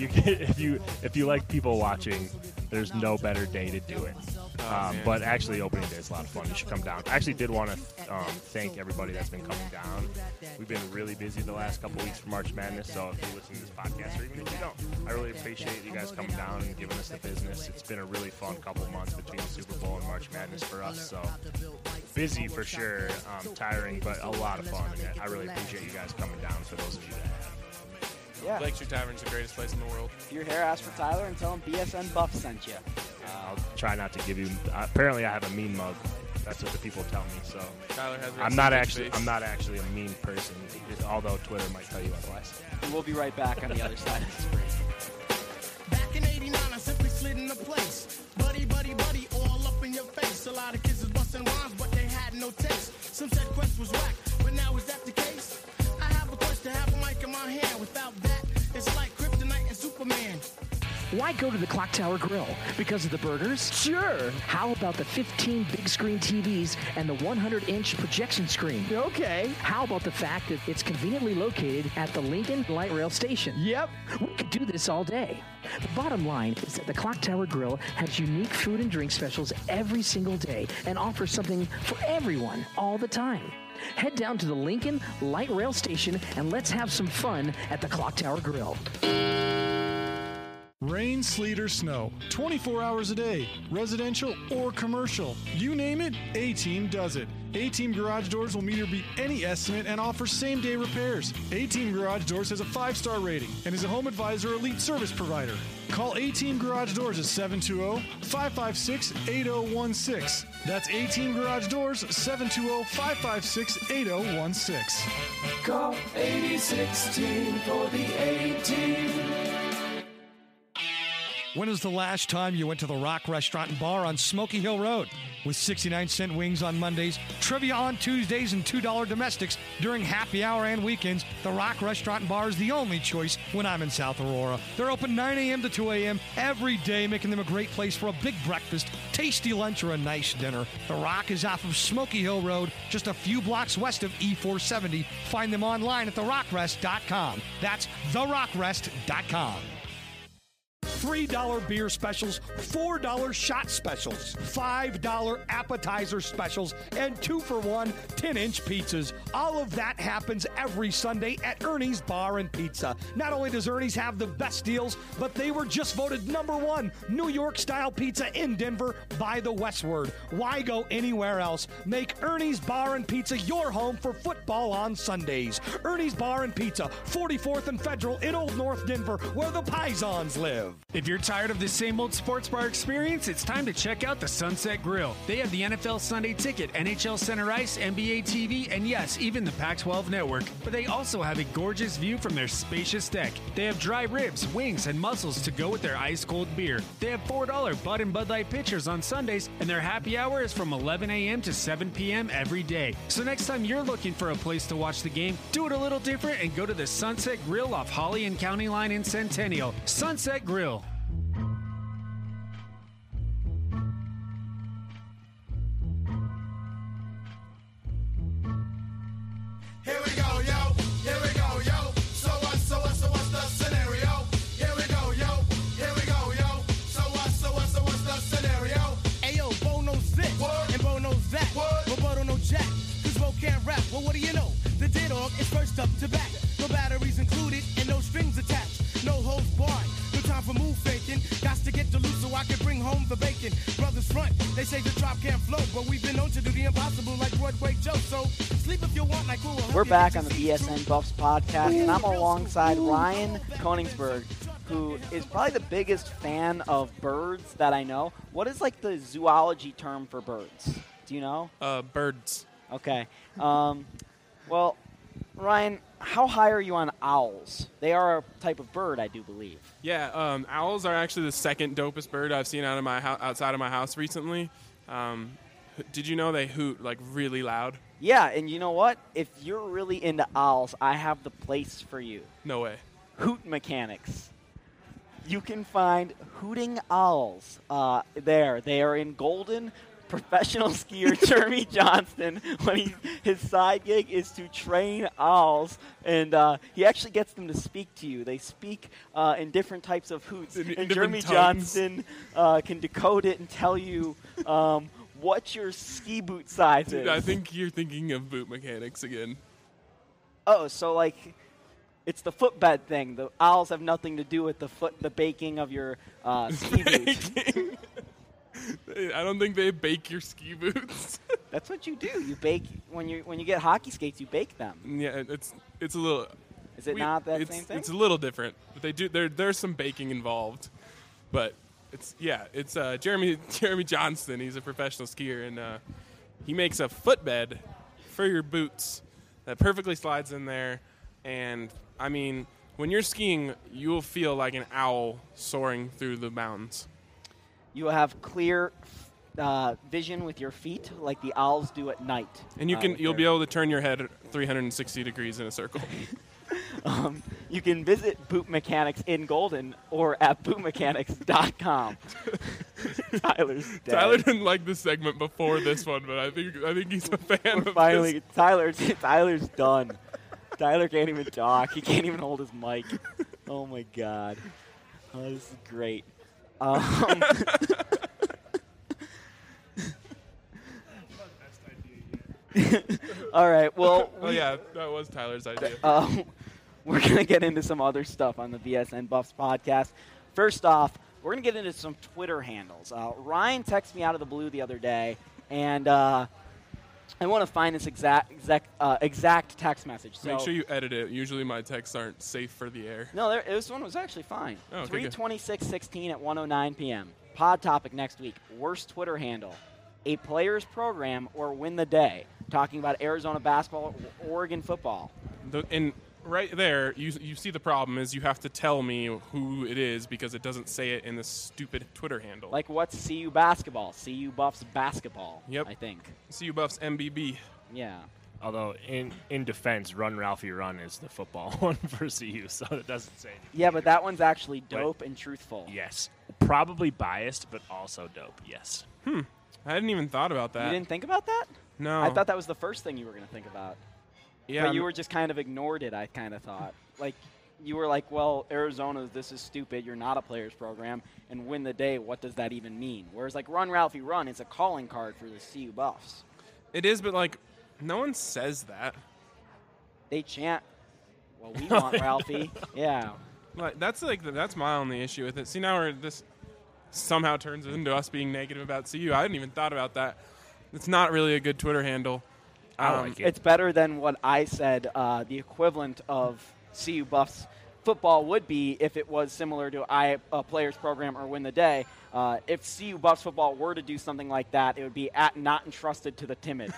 if you like people watching, there's no better day to do it. But actually, opening day is a lot of fun. You should come down. I actually did want to thank everybody that's been coming down. We've been really busy the last couple weeks for March Madness, so if you listen to this podcast, or even if you don't, I really appreciate you guys coming down and giving us the business. It's been a really fun couple months between the Super Bowl and March Madness for us, so busy for sure, tiring, but a lot of fun, and I really appreciate you guys coming down for those of you that have. Yeah. Blake Street Tavern is the greatest place in the world. If you're here, ask for Tyler and tell him BSN Buff sent you. I'll try not to give you. Apparently, I have a mean mug. That's what the people tell me. So Tyler has. I'm not actually a mean person, although Twitter might tell you otherwise. And we'll be right back on the other side of this break. Back in '89, I simply slid into place. Buddy, all up in your face. A lot of kids was busting rhymes, but they had no taste. Some said Quest was whack, but now is that the case? I have a quest to have a mic in my hand. Without that, it's like Kryptonite and Superman. Why go to the Clock Tower Grill? Because of the burgers? Sure. How about the 15 big screen TVs and the 100-inch projection screen? Okay. How about the fact that it's conveniently located at the Lincoln Light Rail Station? Yep. We could do this all day. The bottom line is that the Clock Tower Grill has unique food and drink specials every single day and offers something for everyone all the time. Head down to the Lincoln Light Rail Station and let's have some fun at the Clock Tower Grill. Rain, sleet, or snow, 24 hours a day, residential or commercial. You name it, A-Team does it. A-Team Garage Doors will meet or beat any estimate and offer same-day repairs. A-Team Garage Doors has a 5-star rating and is a Home Advisor Elite service provider. Call A-Team Garage Doors at 720-556-8016. That's A-Team Garage Doors, 720-556-8016. Call 8016 for the A-Team. When was the last time you went to the Rock Restaurant and Bar on Smoky Hill Road? With 69-cent wings on Mondays, trivia on Tuesdays, and $2 domestics during happy hour and weekends, the Rock Restaurant and Bar is the only choice when I'm in South Aurora. They're open 9 a.m. to 2 a.m. every day, making them a great place for a big breakfast, tasty lunch, or a nice dinner. The Rock is off of Smoky Hill Road, just a few blocks west of E470. Find them online at therockrest.com. That's therockrest.com. $3 beer specials, $4 shot specials, $5 appetizer specials, and 2-for-1 10-inch pizzas. All of that happens every Sunday at Ernie's Bar and Pizza. Not only does Ernie's have the best deals, but they were just voted #1 New York-style pizza in Denver by the Westward. Why go anywhere else? Make Ernie's Bar and Pizza your home for football on Sundays. Ernie's Bar and Pizza, 44th and Federal in Old North Denver, where the Pisons live. If you're tired of the same old sports bar experience, it's time to check out the Sunset Grill. They have the NFL Sunday Ticket, NHL Center Ice, NBA TV, and yes, even the Pac-12 Network. But they also have a gorgeous view from their spacious deck. They have dry ribs, wings, and mussels to go with their ice-cold beer. They have $4 Bud and Bud Light pitchers on Sundays, and their happy hour is from 11 a.m. to 7 p.m. every day. So next time you're looking for a place to watch the game, do it a little different and go to the Sunset Grill off Holly and County Line in Centennial. Sunset Grill. Here we go, yo. Here we go, yo. So what's the scenario? Here we go, yo. Here we go, yo. So what's the scenario? Ayo, Bo knows this, and Bo knows that. But Bo don't know jack, cause Bo can't rap. Well, what do you know? The D-Dog is first up to bat. No batteries included, and no strings attached. No holds barred. No time for move faking. Got to get the loot so I can bring home the bacon. Brothers front, they say the drop can't flow, but we've been known to do the impossible like Broadway Joe. So sleep if you want, like who will. We're back on the BSN Buffs podcast, and I'm alongside Ryan Koenigsberg, who is probably the biggest fan of birds that I know. What is like the zoology term for birds? Do you know? Birds. Okay. Well, Ryan, how high are you on owls? They are a type of bird, I do believe. Yeah, owls are actually the second dopest bird I've seen outside of my house recently. Did you know they hoot like really loud? Yeah, and you know what? If you're really into owls, I have the place for you. No way. Hoot Mechanics. You can find hooting owls there. They are in Golden. Professional skier Jeremy Johnston, his side gig is to train owls, and he actually gets them to speak to you. They speak in different types of hoots, and Jeremy Johnston can decode it and tell you what your ski boot size is. Dude, I think you're thinking of boot mechanics again. Oh, so like it's the footbed thing. The owls have nothing to do with the baking of your ski boots. I don't think they bake your ski boots. That's what you do. You bake when you get hockey skates. You bake them. Yeah, it's a little. Is it not that same thing? It's a little different, but they do. There's some baking involved, but it's Jeremy Johnston. He's a professional skier, and he makes a footbed for your boots that perfectly slides in there. And I mean, when you're skiing, you will feel like an owl soaring through the mountains. You will have clear vision with your feet, like the owls do at night. And you'll be able to turn your head 360 degrees in a circle. You can visit Boot Mechanics in Golden or at bootmechanics.com. Tyler's dead. Tyler didn't like this segment before this one, but I think he's a fan of Finally, this. Tyler's done. Tyler can't even talk. He can't even hold his mic. Oh, my God. Oh, this is great. All right, well. Yeah, that was Tyler's idea. We're going to get into some other stuff on the BSN Buffs podcast. First off, we're going to get into some Twitter handles. Ryan texted me out of the blue the other day, and I want to find this exact text message. So Make sure you edit it. Usually my texts aren't safe for the air. No, this one was actually fine. Oh, okay, 3/26/16 at 1:09 p.m. Pod topic next week. Worst Twitter handle. A player's program or win the day. Talking about Arizona basketball, Oregon football. And right there, you see the problem is you have to tell me who it is because it doesn't say it in the stupid Twitter handle. Like what's CU basketball? CU Buffs basketball. Yep. I think. CU Buffs MBB. Yeah. Although in defense, Run Ralphie Run is the football one for CU, so it doesn't say anything. Yeah, but that one's actually dope and truthful. Yes. Probably biased, but also dope. Yes. I hadn't even thought about that. You didn't think about that? No. I thought that was the first thing you were going to think about. Yeah. But you were just kind of ignored it, I kind of thought. Like, you were like, well, Arizona, this is stupid. You're not a players program. And win the day, what does that even mean? Whereas, like, Run Ralphie Run is a calling card for the CU Buffs. It is, but, like, no one says that. They chant, well, we want Ralphie. Yeah. Like, that's my only issue with it. See, now this somehow turns into us being negative about CU. I hadn't even thought about that. It's not really a good Twitter handle. I like it. It's better than what I said the equivalent of CU Buffs football would be if it was similar to a players program or win the day. If CU Buffs football were to do something like that, it would be at not entrusted to the timid.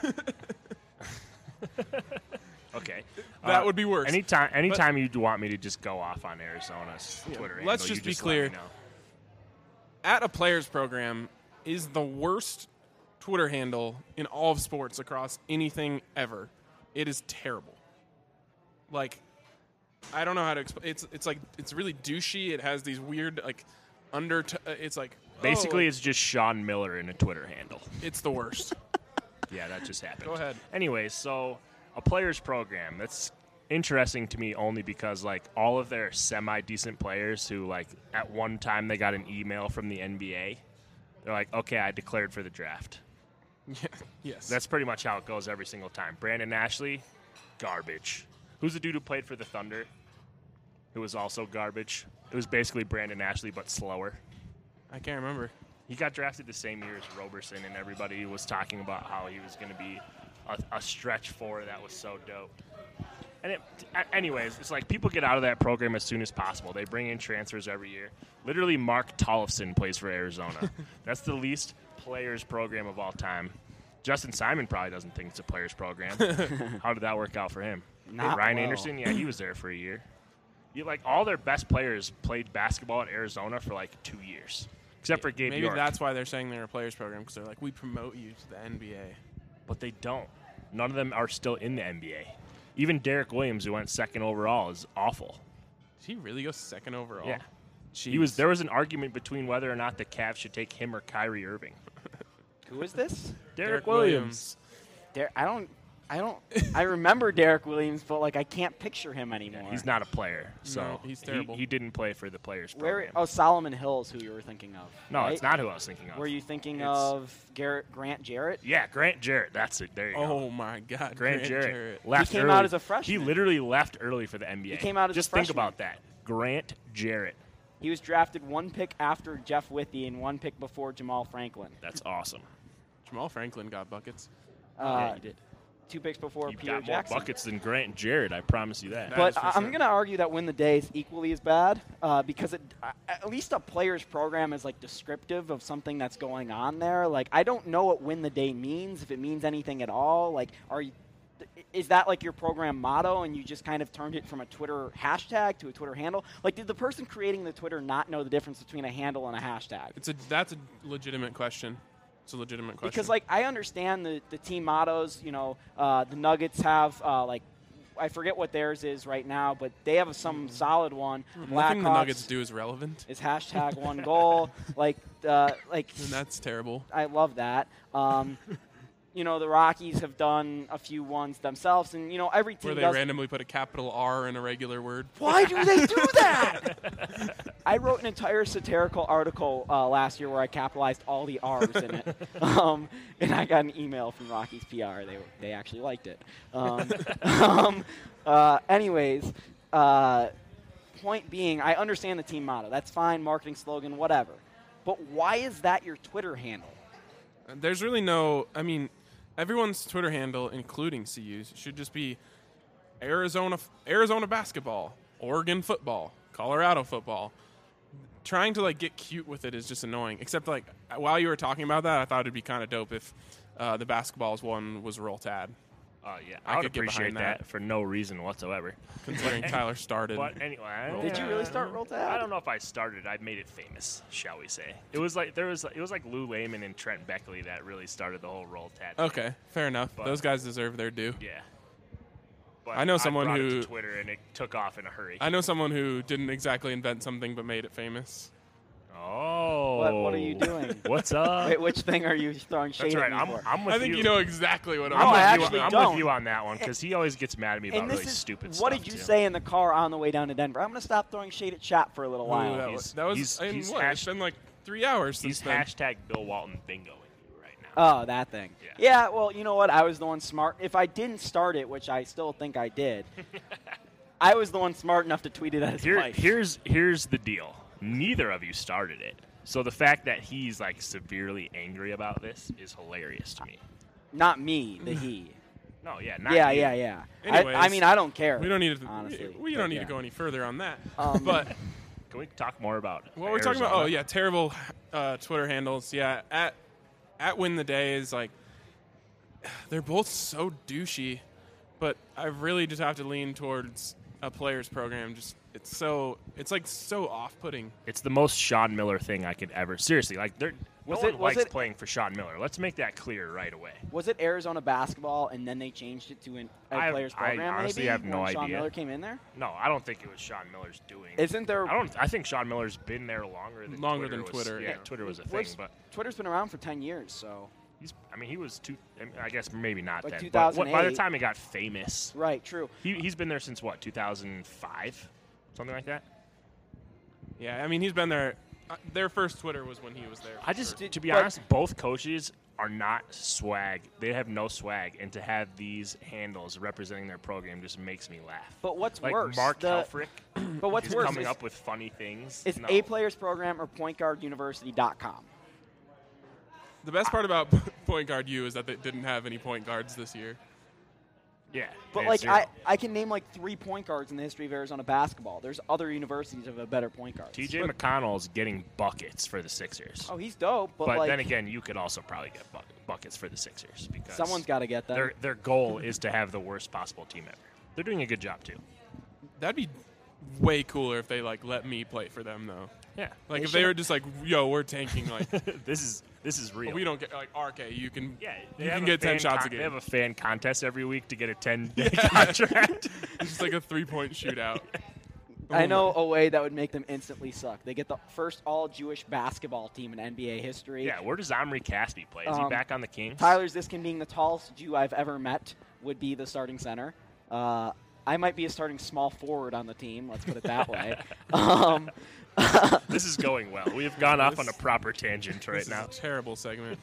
Okay. That would be worse. Anytime you'd want me to just go off on Arizona's Twitter handle, let's just be clear. let me know. At a players program is the worst Twitter handle in all of sports across anything ever. It is terrible. Like, I don't know how to explain. It's like it's really douchey. It has these weird like it's like basically it's just Sean Miller in a Twitter handle. It's the worst. Yeah, that just happened. Go ahead. Anyways, so a players program, that's interesting to me only because like all of their semi-decent players who like at one time they got an email from the NBA, they're like, okay, I declared for the draft. Yeah. Yes. That's pretty much how it goes every single time. Brandon Ashley, garbage. Who's the dude who played for the Thunder? Who was also garbage. It was basically Brandon Ashley, but slower. I can't remember. He got drafted the same year as Roberson, and everybody was talking about how he was going to be a stretch four that was so dope. And anyways, it's like people get out of that program as soon as possible. They bring in transfers every year. Literally, Mark Tollefson plays for Arizona. That's the least players program of all time. Justin Simon probably doesn't think it's a players program. How did that work out for him? Not Ryan well. Anderson, yeah, he was there for a year. Like all their best players played basketball at Arizona for like 2 years, except for Gabe Maybe York. that's why they're saying they're a players program because they're like, we promote you to the NBA. But they don't. None of them are still in the NBA. Even Derek Williams, who went second overall, is awful. Did he really go second overall? Yeah. Jeez. There was an argument between whether or not the Cavs should take him or Kyrie Irving. Who is this? Derek Williams. I remember Derek Williams, but like I can't picture him anymore. Yeah, he's not a player, so No, he's terrible. He didn't play for the players program. Solomon Hill's who you were thinking of. No, right? it's not who I was thinking of. Were you thinking of Grant Jarrett? Yeah, Grant Jarrett. That's it. There you go. Oh my God, Grant Jarrett. He came out as a freshman. He literally left early for the NBA. He came out as a Just think freshman. about that. Grant Jarrett. He was drafted one pick after Jeff Withey and one pick before Jamal Franklin. That's awesome. Jamal Franklin got buckets. Yeah, he did. 2 picks before He Pierre got more Jackson. buckets than Grant Jarrett, I promise you that. But I'm going to argue that Win the Day is equally as bad because at least a player's program is like descriptive of something that's going on there. Like I don't know what Win the Day means, if it means anything at all. Like is that like your program motto and you just kind of turned it from a Twitter hashtag to a Twitter handle? Like did the person creating the Twitter not know the difference between a handle and a hashtag? That's a legitimate question. It's a legitimate question. Because, like, I understand the team mottos. You know, the Nuggets have, like, I forget what theirs is right now, but they have some solid one. Nothing the Nuggets do is relevant. Is hashtag one goal. And that's terrible. I love that. The Rockies have done a few ones themselves, and every team where they does. randomly put a capital R in a regular word. Why do they do that? I wrote an entire satirical article last year where I capitalized all the R's in it, and I got an email from Rockies PR. They actually liked it. Anyways, point being, I understand the team motto. That's fine, marketing slogan, whatever. But why is that your Twitter handle? There's really no. I mean, everyone's Twitter handle, including CU's, should just be Arizona basketball, Oregon football, Colorado football. Trying to get cute with it is just annoying. Except while you were talking about that, I thought it'd be kind of dope if the basketballs one was Roll Tide. Yeah, I would appreciate that for no reason whatsoever. Considering Tyler started. But anyway, did you really start Roll Tide? I don't know if I started. I made it famous, shall we say? It was like Lou Layman and Trent Beckley that really started the whole Roll Tide. Okay, fair enough. But those guys deserve their due. Yeah. But I know someone brought it who to Twitter and it took off in a hurry. I know someone who didn't exactly invent something but made it famous. Oh. What are you doing? What's up? Wait, which thing are you throwing shade That's right. at me for? I'm with I think you. you know exactly what I'm don't. with you on that one because he always gets mad at me about And really this is, stupid stuff. what did you say in the car on the way down to Denver? I'm going to stop throwing shade at Chap for a little while. That was it's been like 3 hours since He's then. hashtag Bill Walton bingo with you right now. Oh, that thing. Yeah, well, you know what? I was the one smart. If I didn't start it, which I still think I did, I was the one smart enough to tweet it at his wife. Here's the deal. Neither of you started it. So the fact that he's severely angry about this is hilarious to me. Not me, the he. No, yeah, not yeah, you. yeah. Anyways, I mean, I don't care. We don't need to. Honestly, we don't need to go any further on that. But can we talk more about what we're talking about? Oh yeah, terrible Twitter handles. Yeah, at Win the Day is they're both so douchey, but I really just have to lean towards a players program. Just it's so off-putting. It's the most Sean Miller thing I could ever. Seriously, no one likes playing for Sean Miller. Let's make that clear right away. Was it Arizona basketball and then they changed it to a players program? I honestly maybe, have no when idea. Sean Miller came in there. No, I don't think it was Sean Miller's doing. Isn't there? I think Sean Miller's been there longer than Twitter. Yeah, Twitter was a thing, but Twitter's been around for 10 years, so. He was I guess maybe not then. 2008. But by the time he got famous, right? True. He's been there since what 2005, something like that. Yeah, I mean he's been there. Their first Twitter was when he was there. To be honest, both coaches are not swag. They have no swag, and to have these handles representing their program just makes me laugh. But what's like worse? Mark Helfrich. But what's is worse coming is, up with funny things. It's a players program or pointguarduniversity.com. The best part about Point Guard U is that they didn't have any point guards this year. Yeah. But I can name 3 point guards in the history of Arizona basketball. There's other universities that have a better point guard. TJ McConnell's getting buckets for the Sixers. Oh, he's dope. But then again, you could also probably get buckets for the Sixers because someone's got to get them. Their goal is to have the worst possible team ever. They're doing a good job too. That'd be way cooler if they let me play for them though. Yeah. If they were just yo, we're tanking this is real. We don't get RK. You can they you have can a get 10 fan shots a game. They have a fan contest every week to get a 10-day contract. It's just like a 3-point shootout. I know a way that would make them instantly suck. They get the first all-Jewish basketball team in NBA history. Yeah, where does Omri Caspi play? Is he back on the Kings? Tyler Ziskin, being the tallest Jew I've ever met, would be the starting center. I might be a starting small forward on the team. Let's put it that way. This is going well. We have gone off on a proper tangent right now. Is a terrible segment.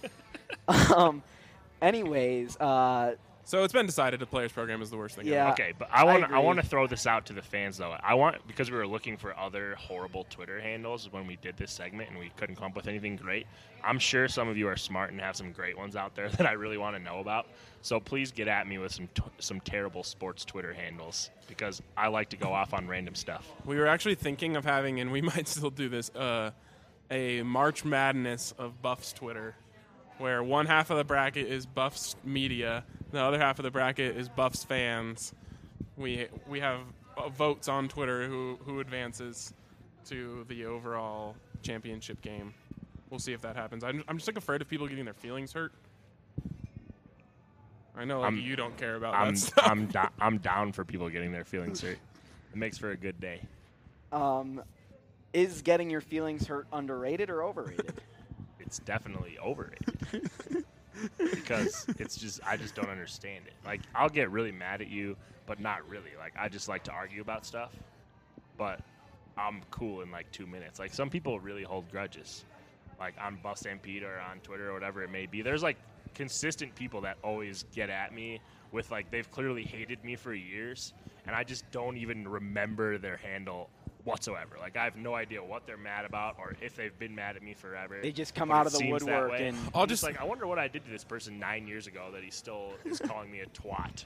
Anyways, so it's been decided the players program is the worst thing. Yeah. ever. Okay, but I want to throw this out to the fans though. Because we were looking for other horrible Twitter handles when we did this segment and we couldn't come up with anything great. I'm sure some of you are smart and have some great ones out there that I really want to know about. So please get at me with some terrible sports Twitter handles because I like to go off on random stuff. We were actually thinking of having, and we might still do this, a March Madness of Buffs Twitter, where one half of the bracket is Buffs media, the other half of the bracket is Buffs fans. We have votes on Twitter who advances to the overall championship game. We'll see if that happens. I'm just afraid of people getting their feelings hurt. I know you don't care about I'm, that stuff. I'm down for people getting their feelings hurt. It makes for a good day. Is getting your feelings hurt underrated or overrated? It's definitely overrated. Because I just don't understand it. Like, I'll get really mad at you, but not really. Like, I just like to argue about stuff. But I'm cool in like 2 minutes. Like, some people really hold grudges. Like, on Buff Stampede or on Twitter or whatever it may be. There's like consistent people that always get at me with like, they've clearly hated me for years, and I just don't even remember their handle whatsoever. Like, I have no idea what they're mad about or if they've been mad at me forever. They just come But out it of the seems that woodwork way. and I'm just like, I wonder what I did to this person 9 years ago that he still is calling me a twat.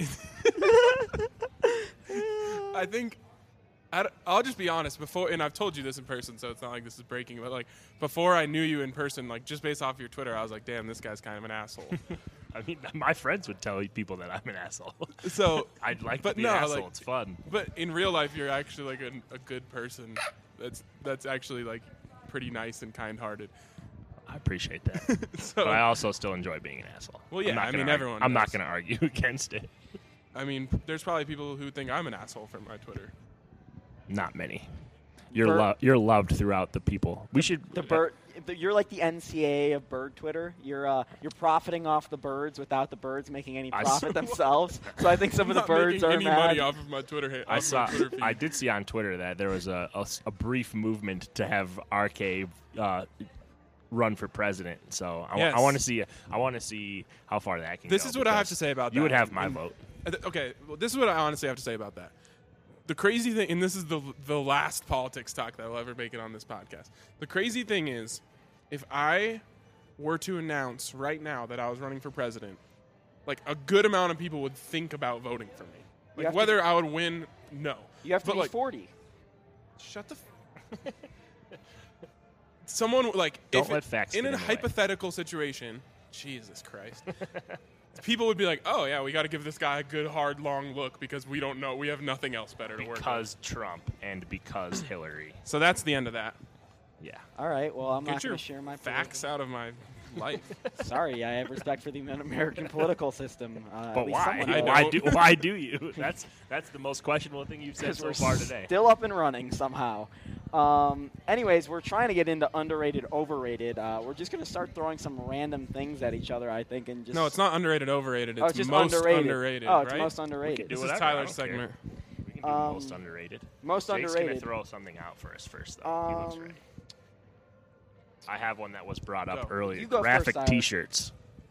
I think I'll just be honest. Before, and I've told you this in person, so it's not like this is breaking. But like before I knew you in person, like just based off your Twitter, I was like, damn, this guy's kind of an asshole. I mean, my friends would tell people that I'm an asshole. So I'd like but to be no, an asshole. like, It's fun. But in real life, you're actually like a good person. That's actually like pretty nice and kind-hearted. I appreciate that. So, but I also still enjoy being an asshole. Well, yeah, I mean, everyone I'm not does. going to argue against it. I mean, there's probably people who think I'm an asshole from my Twitter. Not many. You're loved throughout the people. We should. You're like the NCAA of bird Twitter. You're profiting off the birds without the birds making any profit themselves. So I think some of the birds are any mad. money off of my Twitter. I did see on Twitter that there was a brief movement to have RK run for president. So I want to see how far that can go. This is what I have to say about that. You would have my vote. Okay, well, this is what I honestly have to say about that. The crazy thing, and this is the last politics talk that will ever make it on this podcast. The crazy thing is, if I were to announce right now that I was running for president, like a good amount of people would think about voting for me. Like whether I would win, no. You have to be like, 40. Shut the. Someone like don't let facts in get a in the way. hypothetical situation. Jesus Christ. People would be like, "Oh yeah, we got to give this guy a good, hard, long look because we don't know. We have nothing else better to work with." Because Trump and because Hillary. So that's the end of that. Yeah. All right. Well, I'm Get not your going to share my facts out of my life. Sorry, I have respect for the American political system. But why? Why do you? That's the most questionable thing you've said so far today. Still up and running somehow. Anyways, we're trying to get into underrated, overrated. We're just going to start throwing some random things at each other, I think, and just. No, it's not underrated, overrated. It's just most underrated. Oh, it's right? most underrated. This is Tyler's segment. We can do most underrated. Most Jake's underrated. Going to throw something out for us first, though. He looks ready. I have one that was brought up earlier. You go Graphic first, T-shirts.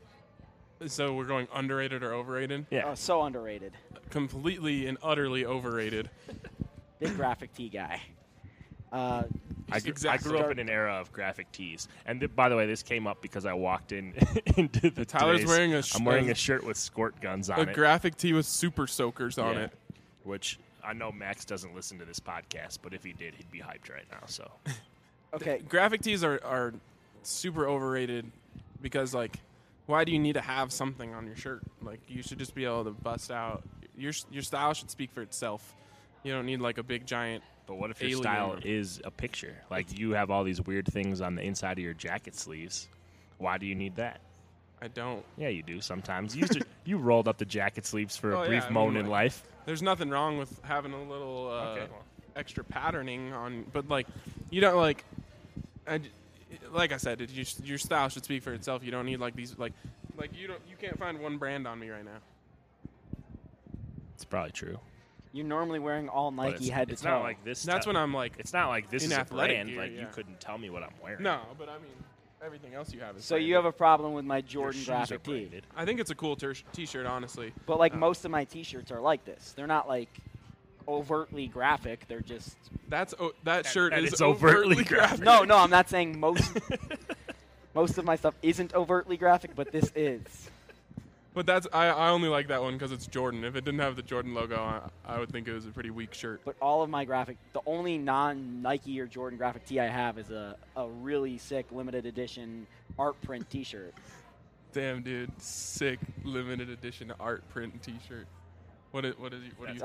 So we're going underrated or overrated? Yeah. Oh, so underrated. Completely and utterly overrated. Big graphic tee guy. I grew up in an era of graphic tees, and by the way, this came up because I walked in into the. Tyler's wearing I'm wearing a shirt with squirt guns on it. A graphic tee with super soakers on it. Which I know Max doesn't listen to this podcast, but if he did, he'd be hyped right now. So. Okay. Graphic tees are super overrated because, like, why do you need to have something on your shirt? Like, you should just be able to bust out. Your style should speak for itself. You don't need, like, a big, giant. But what if your style is a picture? Like, you have all these weird things on the inside of your jacket sleeves. Why do you need that? I don't. Yeah, you do sometimes. You rolled up the jacket sleeves for a brief moment in life. There's nothing wrong with having a little extra patterning on, but, like, you don't, like, like I said, your style should speak for itself. You don't need, like, these, like you can't find one brand on me right now. It's probably true. You're normally wearing all Nike head to toe. It's not like this. That's when I'm like. It's not like this in is a athletic brand. gear, Like yeah. you couldn't tell me what I'm wearing. No, but I mean, everything else you have is. So branded. you have a problem with my Jordan shoes graphic are tee. branded. I think it's a cool T-shirt, honestly. But like most of my T-shirts are like this. They're not like overtly graphic. They're just. That shirt is it's overtly graphic. No, I'm not saying most. Most of my stuff isn't overtly graphic, but this is. But that's I only like that one because it's Jordan. If it didn't have the Jordan logo, I would think it was a pretty weak shirt. But all of my graphic, the only non-Nike or Jordan graphic tee I have is a really sick limited edition art print T-shirt. Damn, dude, sick limited edition art print T-shirt. What do you?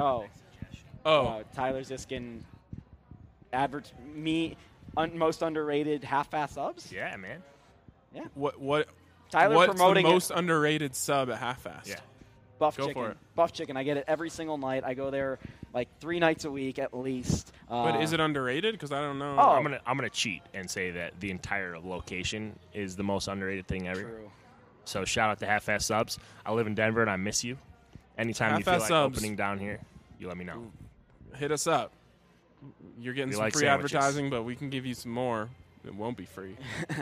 Tyler Ziskin. Most underrated half-fast subs. Yeah, man. Yeah. What Tyler What's promoting the most underrated sub at Half Fast? Yeah. Buff Go chicken. for it. Buff chicken. I get it every single night. I go there like 3 nights a week at least. But is it underrated? Because I don't know. Oh. I'm gonna cheat and say that the entire location is the most underrated thing ever. True. So shout out to Half Fast Subs. I live in Denver and I miss you. Anytime you feel Half-Fast like Subs. opening down here, you let me know. Hit us up. You're getting We some like free sandwiches. advertising, but we can give you some more. It won't be free.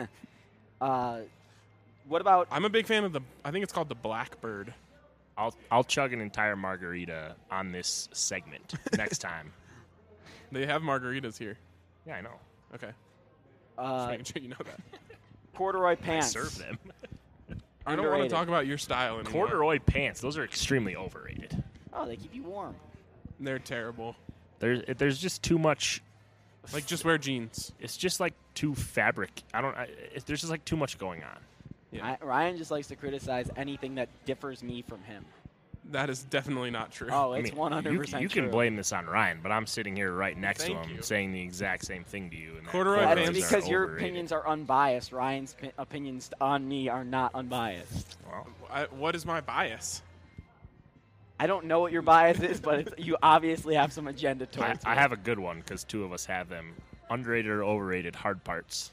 What about? I'm a big fan of I think it's called the Blackbird. I'll chug an entire margarita on this segment next time. They have margaritas here. Yeah, I know. Okay. Just making sure you know that. Corduroy pants. I serve them. I don't want to Underrated. talk about your style anymore. Corduroy pants, those are extremely overrated. Oh, they keep you warm. They're terrible. There's just too much. Like, just wear jeans. It's just like too fabric. There's just like too much going on. Yeah. Ryan just likes to criticize anything that differs me from him. That is definitely not true. Oh, it's 100% You true. can blame this on Ryan, but I'm sitting here right next Thank to him you. saying the exact same thing to you. And that Corduroy That's pants because are your overrated. opinions are unbiased. Ryan's opinions on me are not unbiased. Well, What is my bias? I don't know what your bias is, but you obviously have some agenda I towards it. have a good one because 2 of us have them. Underrated or overrated hard parts?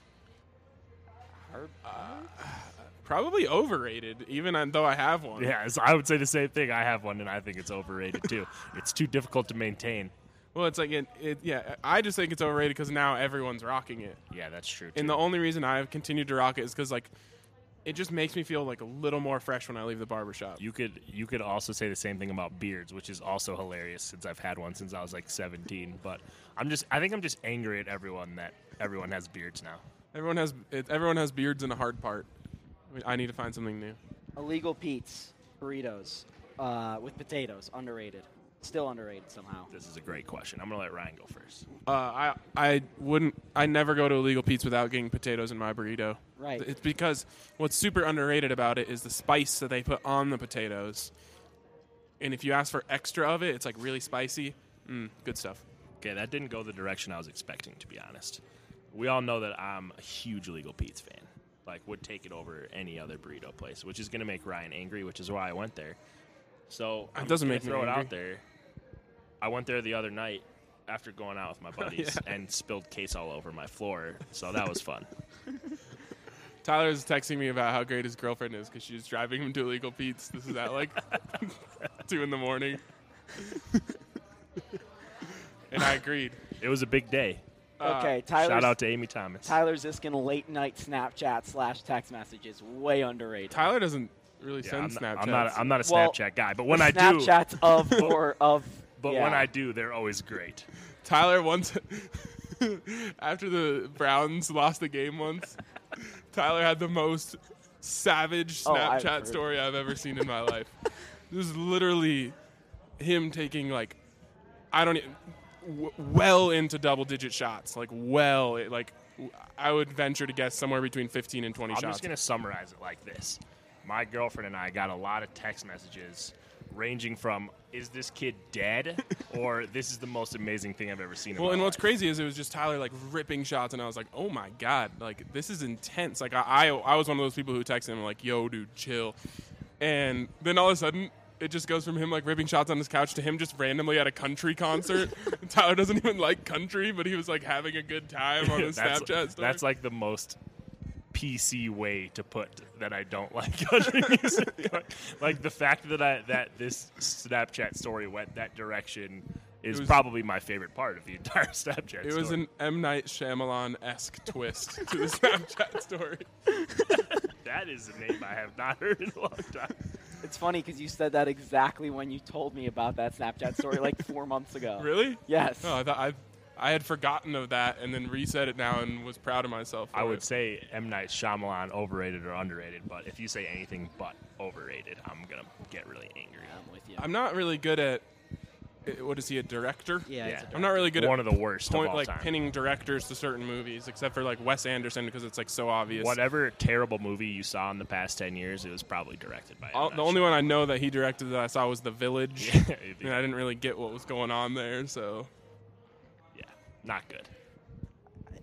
Probably overrated, even though I have one. Yeah, I would say the same thing. I have one, and I think it's overrated too. It's too difficult to maintain. Well, it's like yeah. I just think it's overrated because now everyone's rocking it. Yeah, that's true. And the only reason I've continued to rock it is because like it just makes me feel like a little more fresh when I leave the barbershop. You could also say the same thing about beards, which is also hilarious since I've had one since I was like 17. But I think I'm just angry at everyone that everyone has beards now. Everyone has beards and a hard part. I need to find something new. Illegal Pete's burritos with potatoes, underrated. Still underrated somehow. This is a great question. I'm gonna let Ryan go first. I never go to Illegal Pete's without getting potatoes in my burrito. Right. It's because what's super underrated about it is the spice that they put on the potatoes. And if you ask for extra of it, it's like really spicy. Good stuff. Okay, that didn't go the direction I was expecting, to be honest. We all know that I'm a huge Illegal Pete's fan. Like, would take it over any other burrito place, which is going to make Ryan angry, which is why I went there. So It doesn't make me throw it angry. out there. I went there the other night after going out with my buddies and spilled case all over my floor, so that was fun. Tyler was texting me about how great his girlfriend is because she's driving him to Illegal Pete's. This is at like 2 a.m. And I agreed. It was a big day. Okay, Shout out to Amy Thomas. Tyler Ziskin late night Snapchat / text messages way underrated. Tyler doesn't really send Snapchats. I'm not a Well, Snapchat guy, but when I do, Snapchats of or of. But yeah. when I do, they're always great. Tyler once, after the Browns lost the game once, Tyler had the most savage Oh, I've Snapchat heard. story I've ever seen in my life. This is literally him taking like, well into double-digit shots. I would venture to guess somewhere between 15 and 20 I'm shots. just going to summarize it like this. My girlfriend and I got a lot of text messages ranging from, is this kid dead? Or this is the most amazing thing I've ever seen in Well, my and life. what's crazy is it was just Tyler like ripping shots, and I was like, "Oh my god, like this is intense." Like I was one of those people who texted him like, "Yo, dude, chill," and then all of a sudden it just goes from him like ripping shots on his couch to him just randomly at a country concert. Tyler doesn't even like country, but he was like having a good time on his Snapchat story. That's like the most PC way to put that I don't like country music. Like the fact that this Snapchat story went that direction is probably my favorite part of the entire Snapchat story. It was an M. Night Shyamalan-esque twist to the Snapchat story. That is a name I have not heard in a long time. It's funny because you said that exactly when you told me about that Snapchat story like 4 months ago. Really? Yes. Oh, I thought I had forgotten of that and then reset it now and was proud of myself. I would say M. Night Shyamalan overrated or underrated, but if you say anything but overrated, I'm going to get really angry. I'm with you. I'm not really good at. What is he, a director? Yeah, he's a I'm not really good One at of the worst of all time. pinning directors to certain movies, except for like Wes Anderson because it's like so obvious. Whatever terrible movie you saw in the past 10 years, it was probably directed by M. Night The only one I know that he directed that I saw was The Village, Yeah, and I didn't really get what was going on there. So yeah, not good.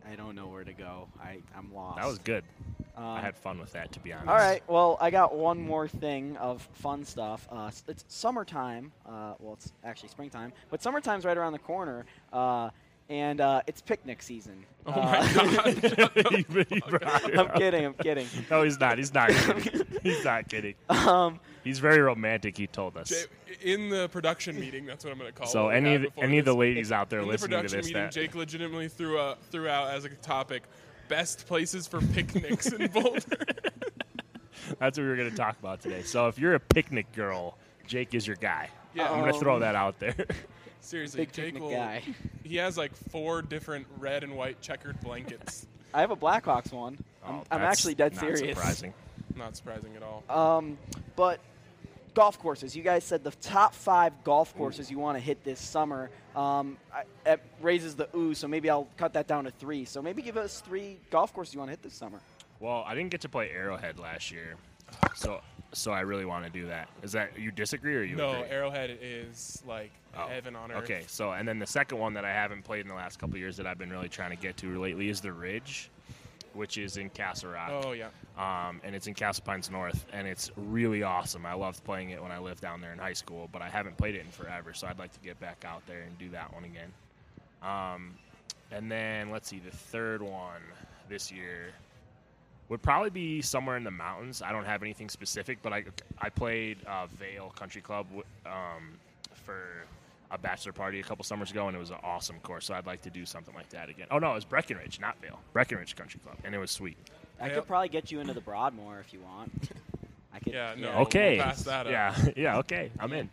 I don't know where to go. I'm lost. That was good. I had fun with that, to be honest. All right. Well, I got one more thing of fun stuff. It's summertime. Well, it's actually springtime, but summertime's right around the corner. And it's picnic season. Oh my God! I'm kidding. No, he's not. He's not kidding. He's not kidding. He's very romantic. He told us. In the production meeting, that's what I'm going to call it. So any of the ladies out there listening to this, in the production meeting, Jake legitimately threw out as a topic, best places for picnics in Boulder. That's what we were going to talk about today. So if you're a picnic girl, Jake is your guy. Yeah, I'm going to throw that out there. Seriously, Jake guy. He has like 4 different red and white checkered blankets. I have a Blackhawks one. I'm actually dead serious. Not surprising at all. But golf courses. You guys said the top 5 golf courses you want to hit this summer. It raises the ooh, so maybe I'll cut that down to 3. So maybe give us 3 golf courses you want to hit this summer. Well, I didn't get to play Arrowhead last year, so I really want to do that. Is that you disagree or you No, agree? Arrowhead is like heaven on earth. Okay, so and then the second one that I haven't played in the last couple of years that I've been really trying to get to lately is the Ridge, which is in Castle Rock. Oh, yeah. And it's in Castle Pines North, and it's really awesome. I loved playing it when I lived down there in high school, but I haven't played it in forever, so I'd like to get back out there and do that one again. And then, let's see, the third one this year would probably be somewhere in the mountains. I don't have anything specific, but I played Vail Country Club for a bachelor party a couple summers ago, and it was an awesome course, so I'd like to do something like that again. Oh, no, it was Breckenridge, not Vail. Breckenridge Country Club, and it was sweet. I could probably get you into the Broadmoor if you want. I could. Yeah, no. Okay. We'll pass that up. Yeah, okay. I'm in.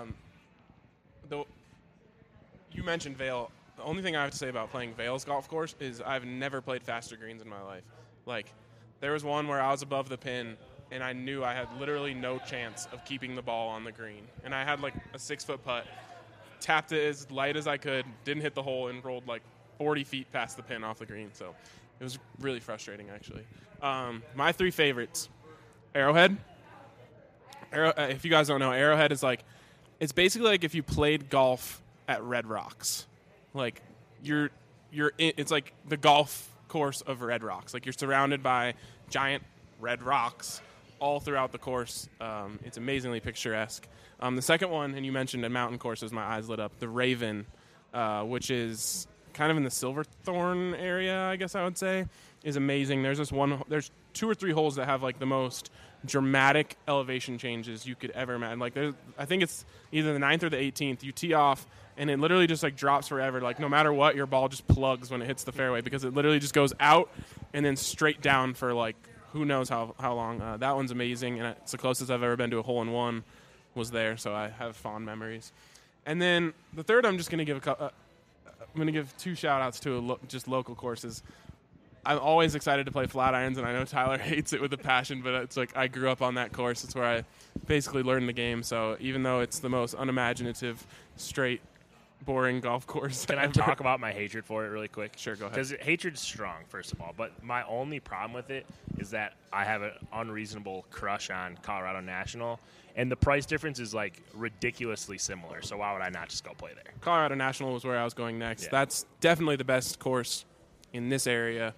You mentioned Vail. The only thing I have to say about playing Vail's golf course is I've never played faster greens in my life. Like, there was one where I was above the pin, and I knew I had literally no chance of keeping the ball on the green. And I had, like, a 6-foot putt, tapped it as light as I could, didn't hit the hole, and rolled, like, 40 feet past the pin off the green. So it was really frustrating, actually. My 3 favorites, Arrowhead. If you guys don't know, Arrowhead is, like, it's basically like if you played golf at Red Rocks. Like, it's like the golf course of Red Rocks. Like, you're surrounded by giant red rocks all throughout the course. It's amazingly picturesque. The second one, and you mentioned a mountain course, as my eyes lit up, the Raven, which is kind of in the Silverthorne area, I guess I would say, is amazing. There's 2 or 3 holes that have like the most dramatic elevation changes you could ever imagine. Like, I think it's either the 9th or the 18th. You tee off, and it literally just like drops forever. Like, no matter what, your ball just plugs when it hits the fairway because it literally just goes out and then straight down for like who knows how long. That one's amazing, and it's the closest I've ever been to a hole-in-one was there, so I have fond memories. And then the third, I'm just going to give I'm going to give 2 shout-outs to just local courses. I'm always excited to play flat irons, and I know Tyler hates it with a passion, but it's like I grew up on that course. It's where I basically learned the game. So even though it's the most unimaginative, straight, boring golf course. Can I talk about my hatred for it really quick? Sure, go ahead. Because hatred's strong, first of all. But my only problem with it is that I have an unreasonable crush on Colorado National, and the price difference is like ridiculously similar. So why would I not just go play there? Colorado National was where I was going next. Yeah. That's definitely the best course in this area.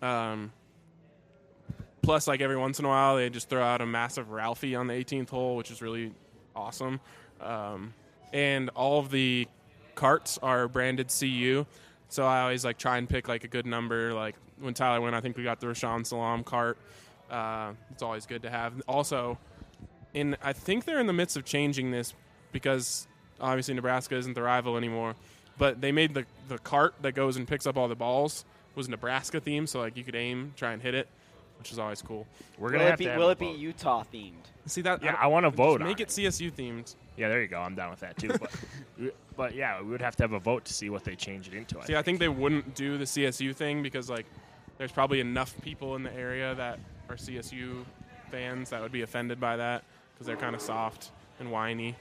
Plus, like every once in a while, they just throw out a massive Ralphie on the 18th hole, which is really awesome. And all of the carts are branded CU, so I always like try and pick like a good number. Like when Tyler went, I think we got the Rashawn Salam cart. It's always good to have. Also, I think they're in the midst of changing this because obviously Nebraska isn't the rival anymore. But they made the cart that goes and picks up all the balls was Nebraska themed, so like you could aim, try and hit it, which is always cool. We're gonna have to have will it be Utah themed? See that? Yeah, I want to vote. Make it CSU themed. Yeah, there you go. I'm down with that too. But yeah, we would have to have a vote to see what they change it into. I think they wouldn't do the CSU thing because like there's probably enough people in the area that are CSU fans that would be offended by that because they're kind of soft and whiny.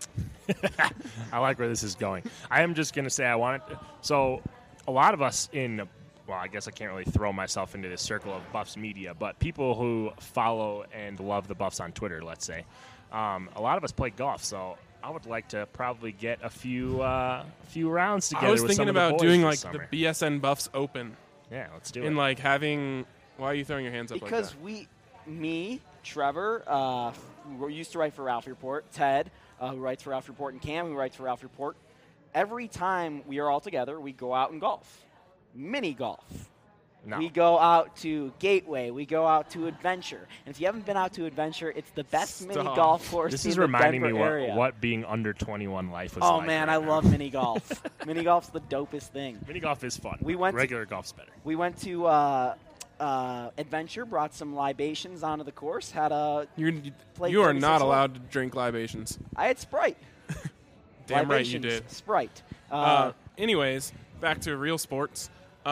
I like where this is going. I am just gonna say I want it. So a lot of us well, I guess I can't really throw myself into this circle of Buffs media, but people who follow and love the Buffs on Twitter, let's say, a lot of us play golf, so I would like to probably get a few rounds together. I was with thinking some of the about boys doing this like summer. the BSN Buffs Open. Yeah, let's do it. And like having, why are you throwing your hands up Because like that? me, Trevor, who used to write for Ralph Report, Ted, who writes for Ralph Report, and Cam, who writes for Ralph Report, every time we are all together, we go out and golf. Mini golf. No. We go out to Gateway. We go out to Adventure. And if you haven't been out to Adventure, it's the best mini golf course This in is the reminding Denver me area. what being under 21 life was Oh, like. man, right I now. love mini golf. Mini golf's the dopest thing. Mini golf is fun. We went Regular golf's better. We went to Adventure, brought some libations onto the course, had a played You are 36 not hole. allowed to drink libations. I had Sprite. Damn right you Libations, did. Sprite. Anyways, back to real sports.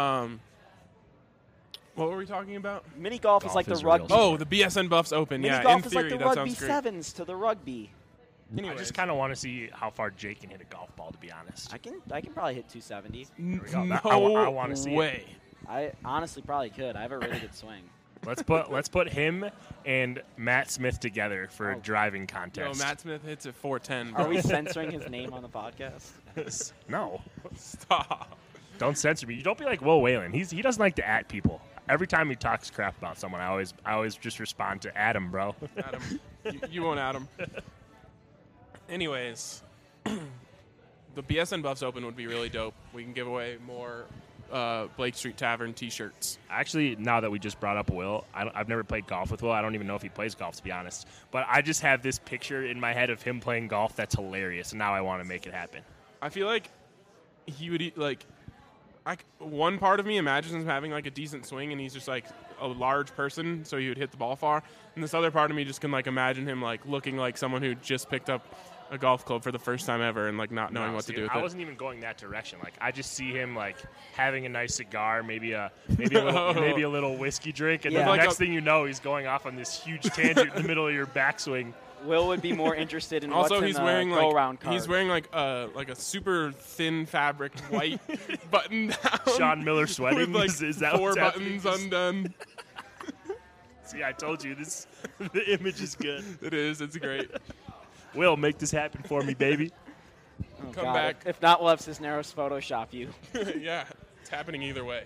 What were we talking about? Mini golf is like the rugby. Oh, the BSN Buffs Open. Mini Yeah, golf in is theory, like the that rugby sounds great. sevens to the rugby. I just kind of want to see how far Jake can hit a golf ball, to be honest. I can probably hit 270. There we go. No I want to see way. it. I honestly probably could. I have a really good swing. Let's put him and Matt Smith together for a driving Yo, contest. Matt Smith hits at 410. Are we censoring his name on the podcast? No. Stop. Don't censor me. You don't be like Will Whalen. He doesn't like to at people. Every time he talks crap about someone, I always just respond to Adam, bro. Adam. You won't Adam. Anyways, the BSN Buffs Open would be really dope. We can give away more Blake Street Tavern T-shirts. Actually, now that we just brought up Will, I've never played golf with Will. I don't even know if he plays golf, to be honest. But I just have this picture in my head of him playing golf that's hilarious, and now I want to make it happen. I feel like he would one part of me imagines him having like a decent swing, and he's just like a large person, so he would hit the ball far. And this other part of me just can like imagine him like looking like someone who just picked up a golf club for the first time ever and like not knowing what to do with I it. wasn't even going that direction. Like I just see him like having a nice cigar, maybe a little whiskey drink, and then Yeah. the Like next thing you know, he's going off on this huge tangent in the middle of your backswing. Will would be more interested in Also, what's in he's the wearing go-round card. he's wearing like a super thin fabric white button down. Sean Miller sweating. with like Is that 4 what's happening? buttons undone. See, I told you this. The image is good. It is. It's great. Will, make this happen for me, baby. Oh, Come God. back. If not, we'll have Cisneros Photoshop you. Yeah, it's happening either way.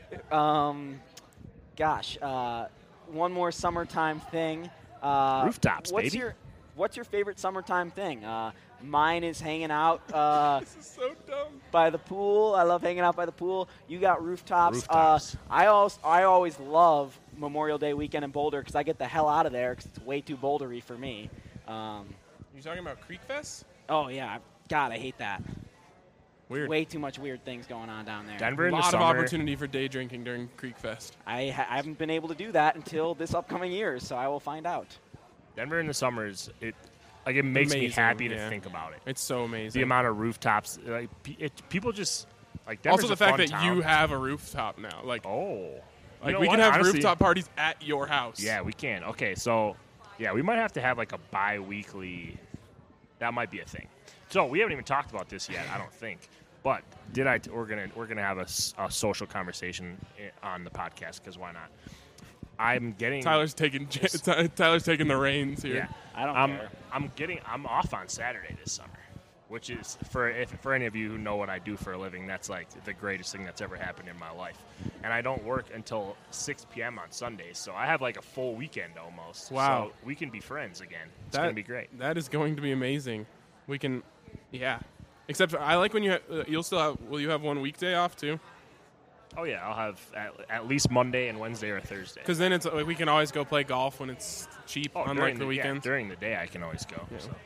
Gosh, one more summertime thing. Rooftops, baby. What's your favorite summertime thing? Mine is hanging out This is so dumb. by the pool. I love hanging out by the pool. You got rooftops. Rooftops. I always love Memorial Day weekend in Boulder because I get the hell out of there because it's way too bouldery for me. You talking about Creek Fest? Oh, yeah. God, I hate that. Weird. Way too much weird things going on down there. Denver A in the lot of summer. opportunity for day drinking during Creek Fest. I haven't been able to do that until this upcoming year, so I will find out. Denver in the summers, it makes me Amazing, happy to yeah. think about it. It's so amazing. The amount of rooftops, like people just like. Denver's Also, the a fact fun that town. you have a rooftop now, like, You like know we what? can have Honestly- rooftop parties at your house. Yeah, we can. Okay, so yeah, we might have to have like a bi-weekly. That might be a thing. So we haven't even talked about this yet, I don't think. But we're gonna have a social conversation on the podcast because why not? I'm getting Tyler's taking the reins here. Yeah, I don't care. I'm off on Saturday this summer, which is for any of you who know what I do for a living, that's like the greatest thing that's ever happened in my life. And I don't work until 6 p.m. on Sundays, so I have like a full weekend almost. Wow. So we can be friends again. It's gonna be great. That is going to be amazing. We can, yeah. Except I like when will you have one weekday off too? Oh yeah, I'll have at least Monday and Wednesday or Thursday. Because then it's like we can always go play golf when it's cheap, unlike the weekends. during the day I can always go. Yeah. So.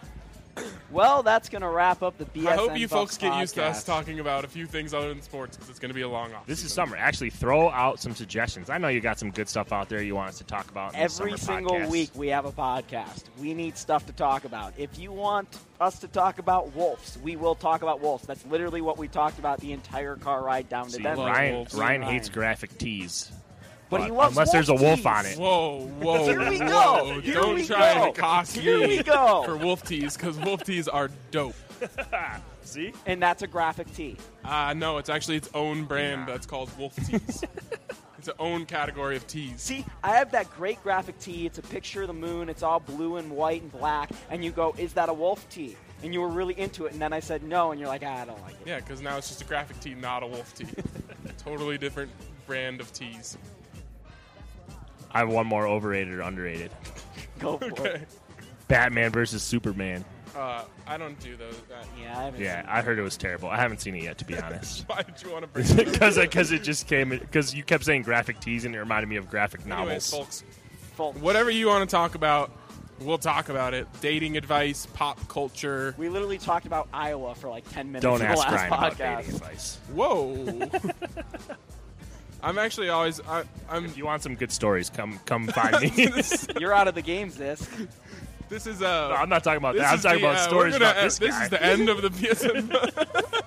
Well, that's going to wrap up the BSN I hope you Buffs folks get used to us podcast. talking about a few things other than sports because it's going to be a long off. This is summer. Actually, throw out some suggestions. I know you got some good stuff out there you want us to talk about in this Every summer single podcast. week we have a podcast. We need stuff to talk about. If you want us to talk about wolves, we will talk about wolves. That's literally what we talked about the entire car ride down to See, Denver. Ryan hates graphic tees. But he loves unless there's a wolf wolf tees. on it. Whoa. Here we go. Whoa. Here Don't we try go. and cost Here me we go. for wolf tees because wolf tees are dope. See? And that's a graphic tee. No, it's actually its own brand that's called Wolf Tees. It's its own category of tees. See, I have that great graphic tee. It's a picture of the moon. It's all blue and white and black. And you go, is that a wolf tee? And you were really into it. And then I said no. And you're like, I don't like it. Yeah, because now it's just a graphic tee, not a wolf tee. Totally different brand of tees. I have one more overrated or underrated. Go for Okay. it. Batman versus Superman. I don't do those. Yeah, I haven't Yeah, seen I heard it was terrible. I haven't seen it yet, to be honest. Why did you want to bring it up? Because it just came because you kept saying graphic tees and it reminded me of graphic Anyways, novels. folks, whatever you want to talk about, we'll talk about it. Dating advice, pop culture. We literally talked about Iowa for like 10 minutes Don't in the ask last Ryan about podcast. dating advice. Whoa. I'm actually always. If you want some good stories, come find me. You're out of the games, this. This is No, I'm not talking about that. I'm talking about stories about this guy. This is the end of the PSN.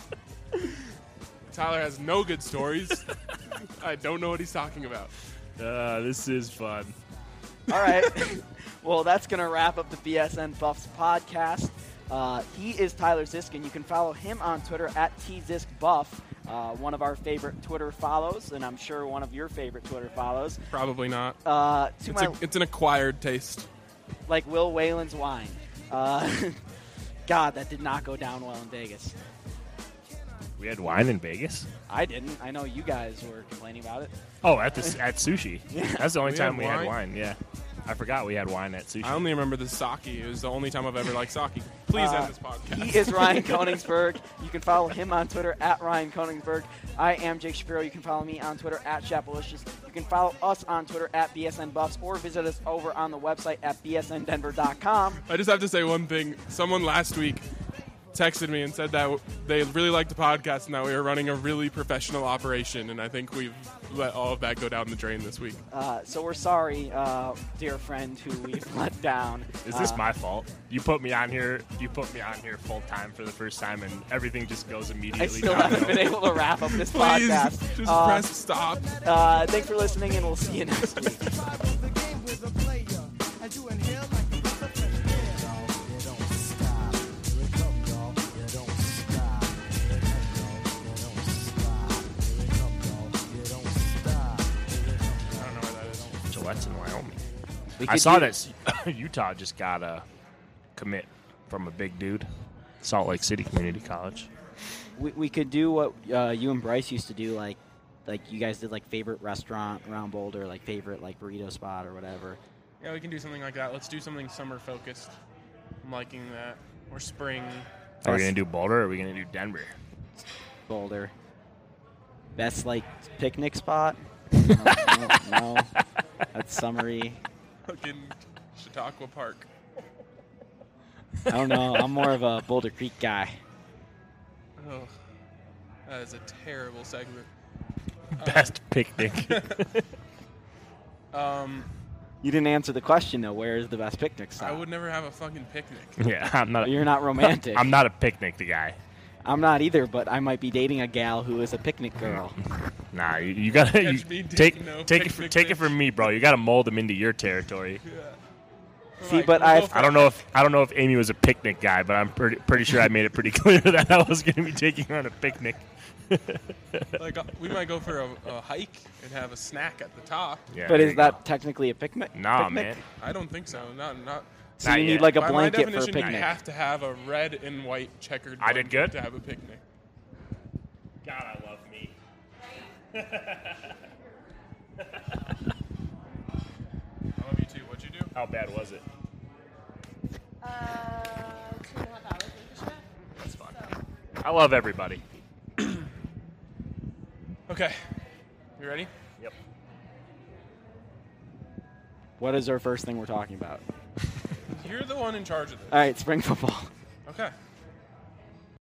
Tyler has no good stories. I don't know what he's talking about. This is fun. All right. Well, that's going to wrap up the BSN Buffs podcast. He is Tyler Ziskin. You can follow him on Twitter at @TZiskBuff. One of our favorite Twitter follows, and I'm sure one of your favorite Twitter follows. Probably not. It's an acquired taste. Like Will Whalen's wine. God, that did not go down well in Vegas. We had wine in Vegas? I didn't. I know you guys were complaining about it. Oh, at sushi. Yeah. That's the only We time had we had wine? wine. Yeah, I forgot we had wine at sushi. I only remember the sake. It was the only time I've ever liked sake. Please end this podcast. He is Ryan Koningsberg. You can follow him on Twitter at Ryan Koningsberg. I am Jake Shapiro. You can follow me on Twitter at Chapelicious. You can follow us on Twitter at BSN Buffs or visit us over on the website at bsndenver.com. I just have to say one thing. Someone last week texted me and said that they really liked the podcast and that we were running a really professional operation, and I think we've let all of that go down the drain this week. So we're sorry, dear friend, who we've let down. Is this my fault? You put me on here. You put me on here full time for the first time, and everything just goes immediately. I still downhill. haven't been able to wrap up this Please, podcast. just press stop. Thanks for listening, and we'll see you next week. Gillette's in Wyoming. We I could saw do- that Utah just got a commit from a big dude, Salt Lake City Community College. We could do what you and Bryce used to do, like you guys did, like favorite restaurant around Boulder, like favorite like burrito spot or whatever. Yeah, we can do something like that. Let's do something summer focused. I'm liking that. Or spring. Are we going to do Boulder or are we going to do Denver? Boulder. Best like picnic spot? No. That's summery. Fucking Chautauqua Park. I don't know. I'm more of a Boulder Creek guy. Oh, that is a terrible segment. Best picnic. You didn't answer the question though. Where is the best picnic I spot? would never have a fucking picnic. Yeah, I'm not. You're not romantic. I'm not a picnic guy. I'm not either, but I might be dating a gal who is a picnic girl. Nah, you gotta Catch me take dating no take picnic it from me, bro. You gotta mold them into your territory. See, but I don't know if Amy was a picnic guy, but I'm pretty sure I made it pretty clear that I was going to be taking her on a picnic. Like we might go for a hike and have a snack at the top. Yeah, but there is you that technically a picnic? Nah, picnic? man. I don't think so. Not. So Not you yet. need like a By blanket my for a definition, picnic. you have to have a red and white checkered. I did blanket good? to have a picnic. God, I love me. I love you too. What'd you do? How bad was it? 2.5 hours. That's fun. I love everybody. Okay. You ready? Yep. What is our first thing we're talking about? You're the one in charge of this. All right, spring football. Okay.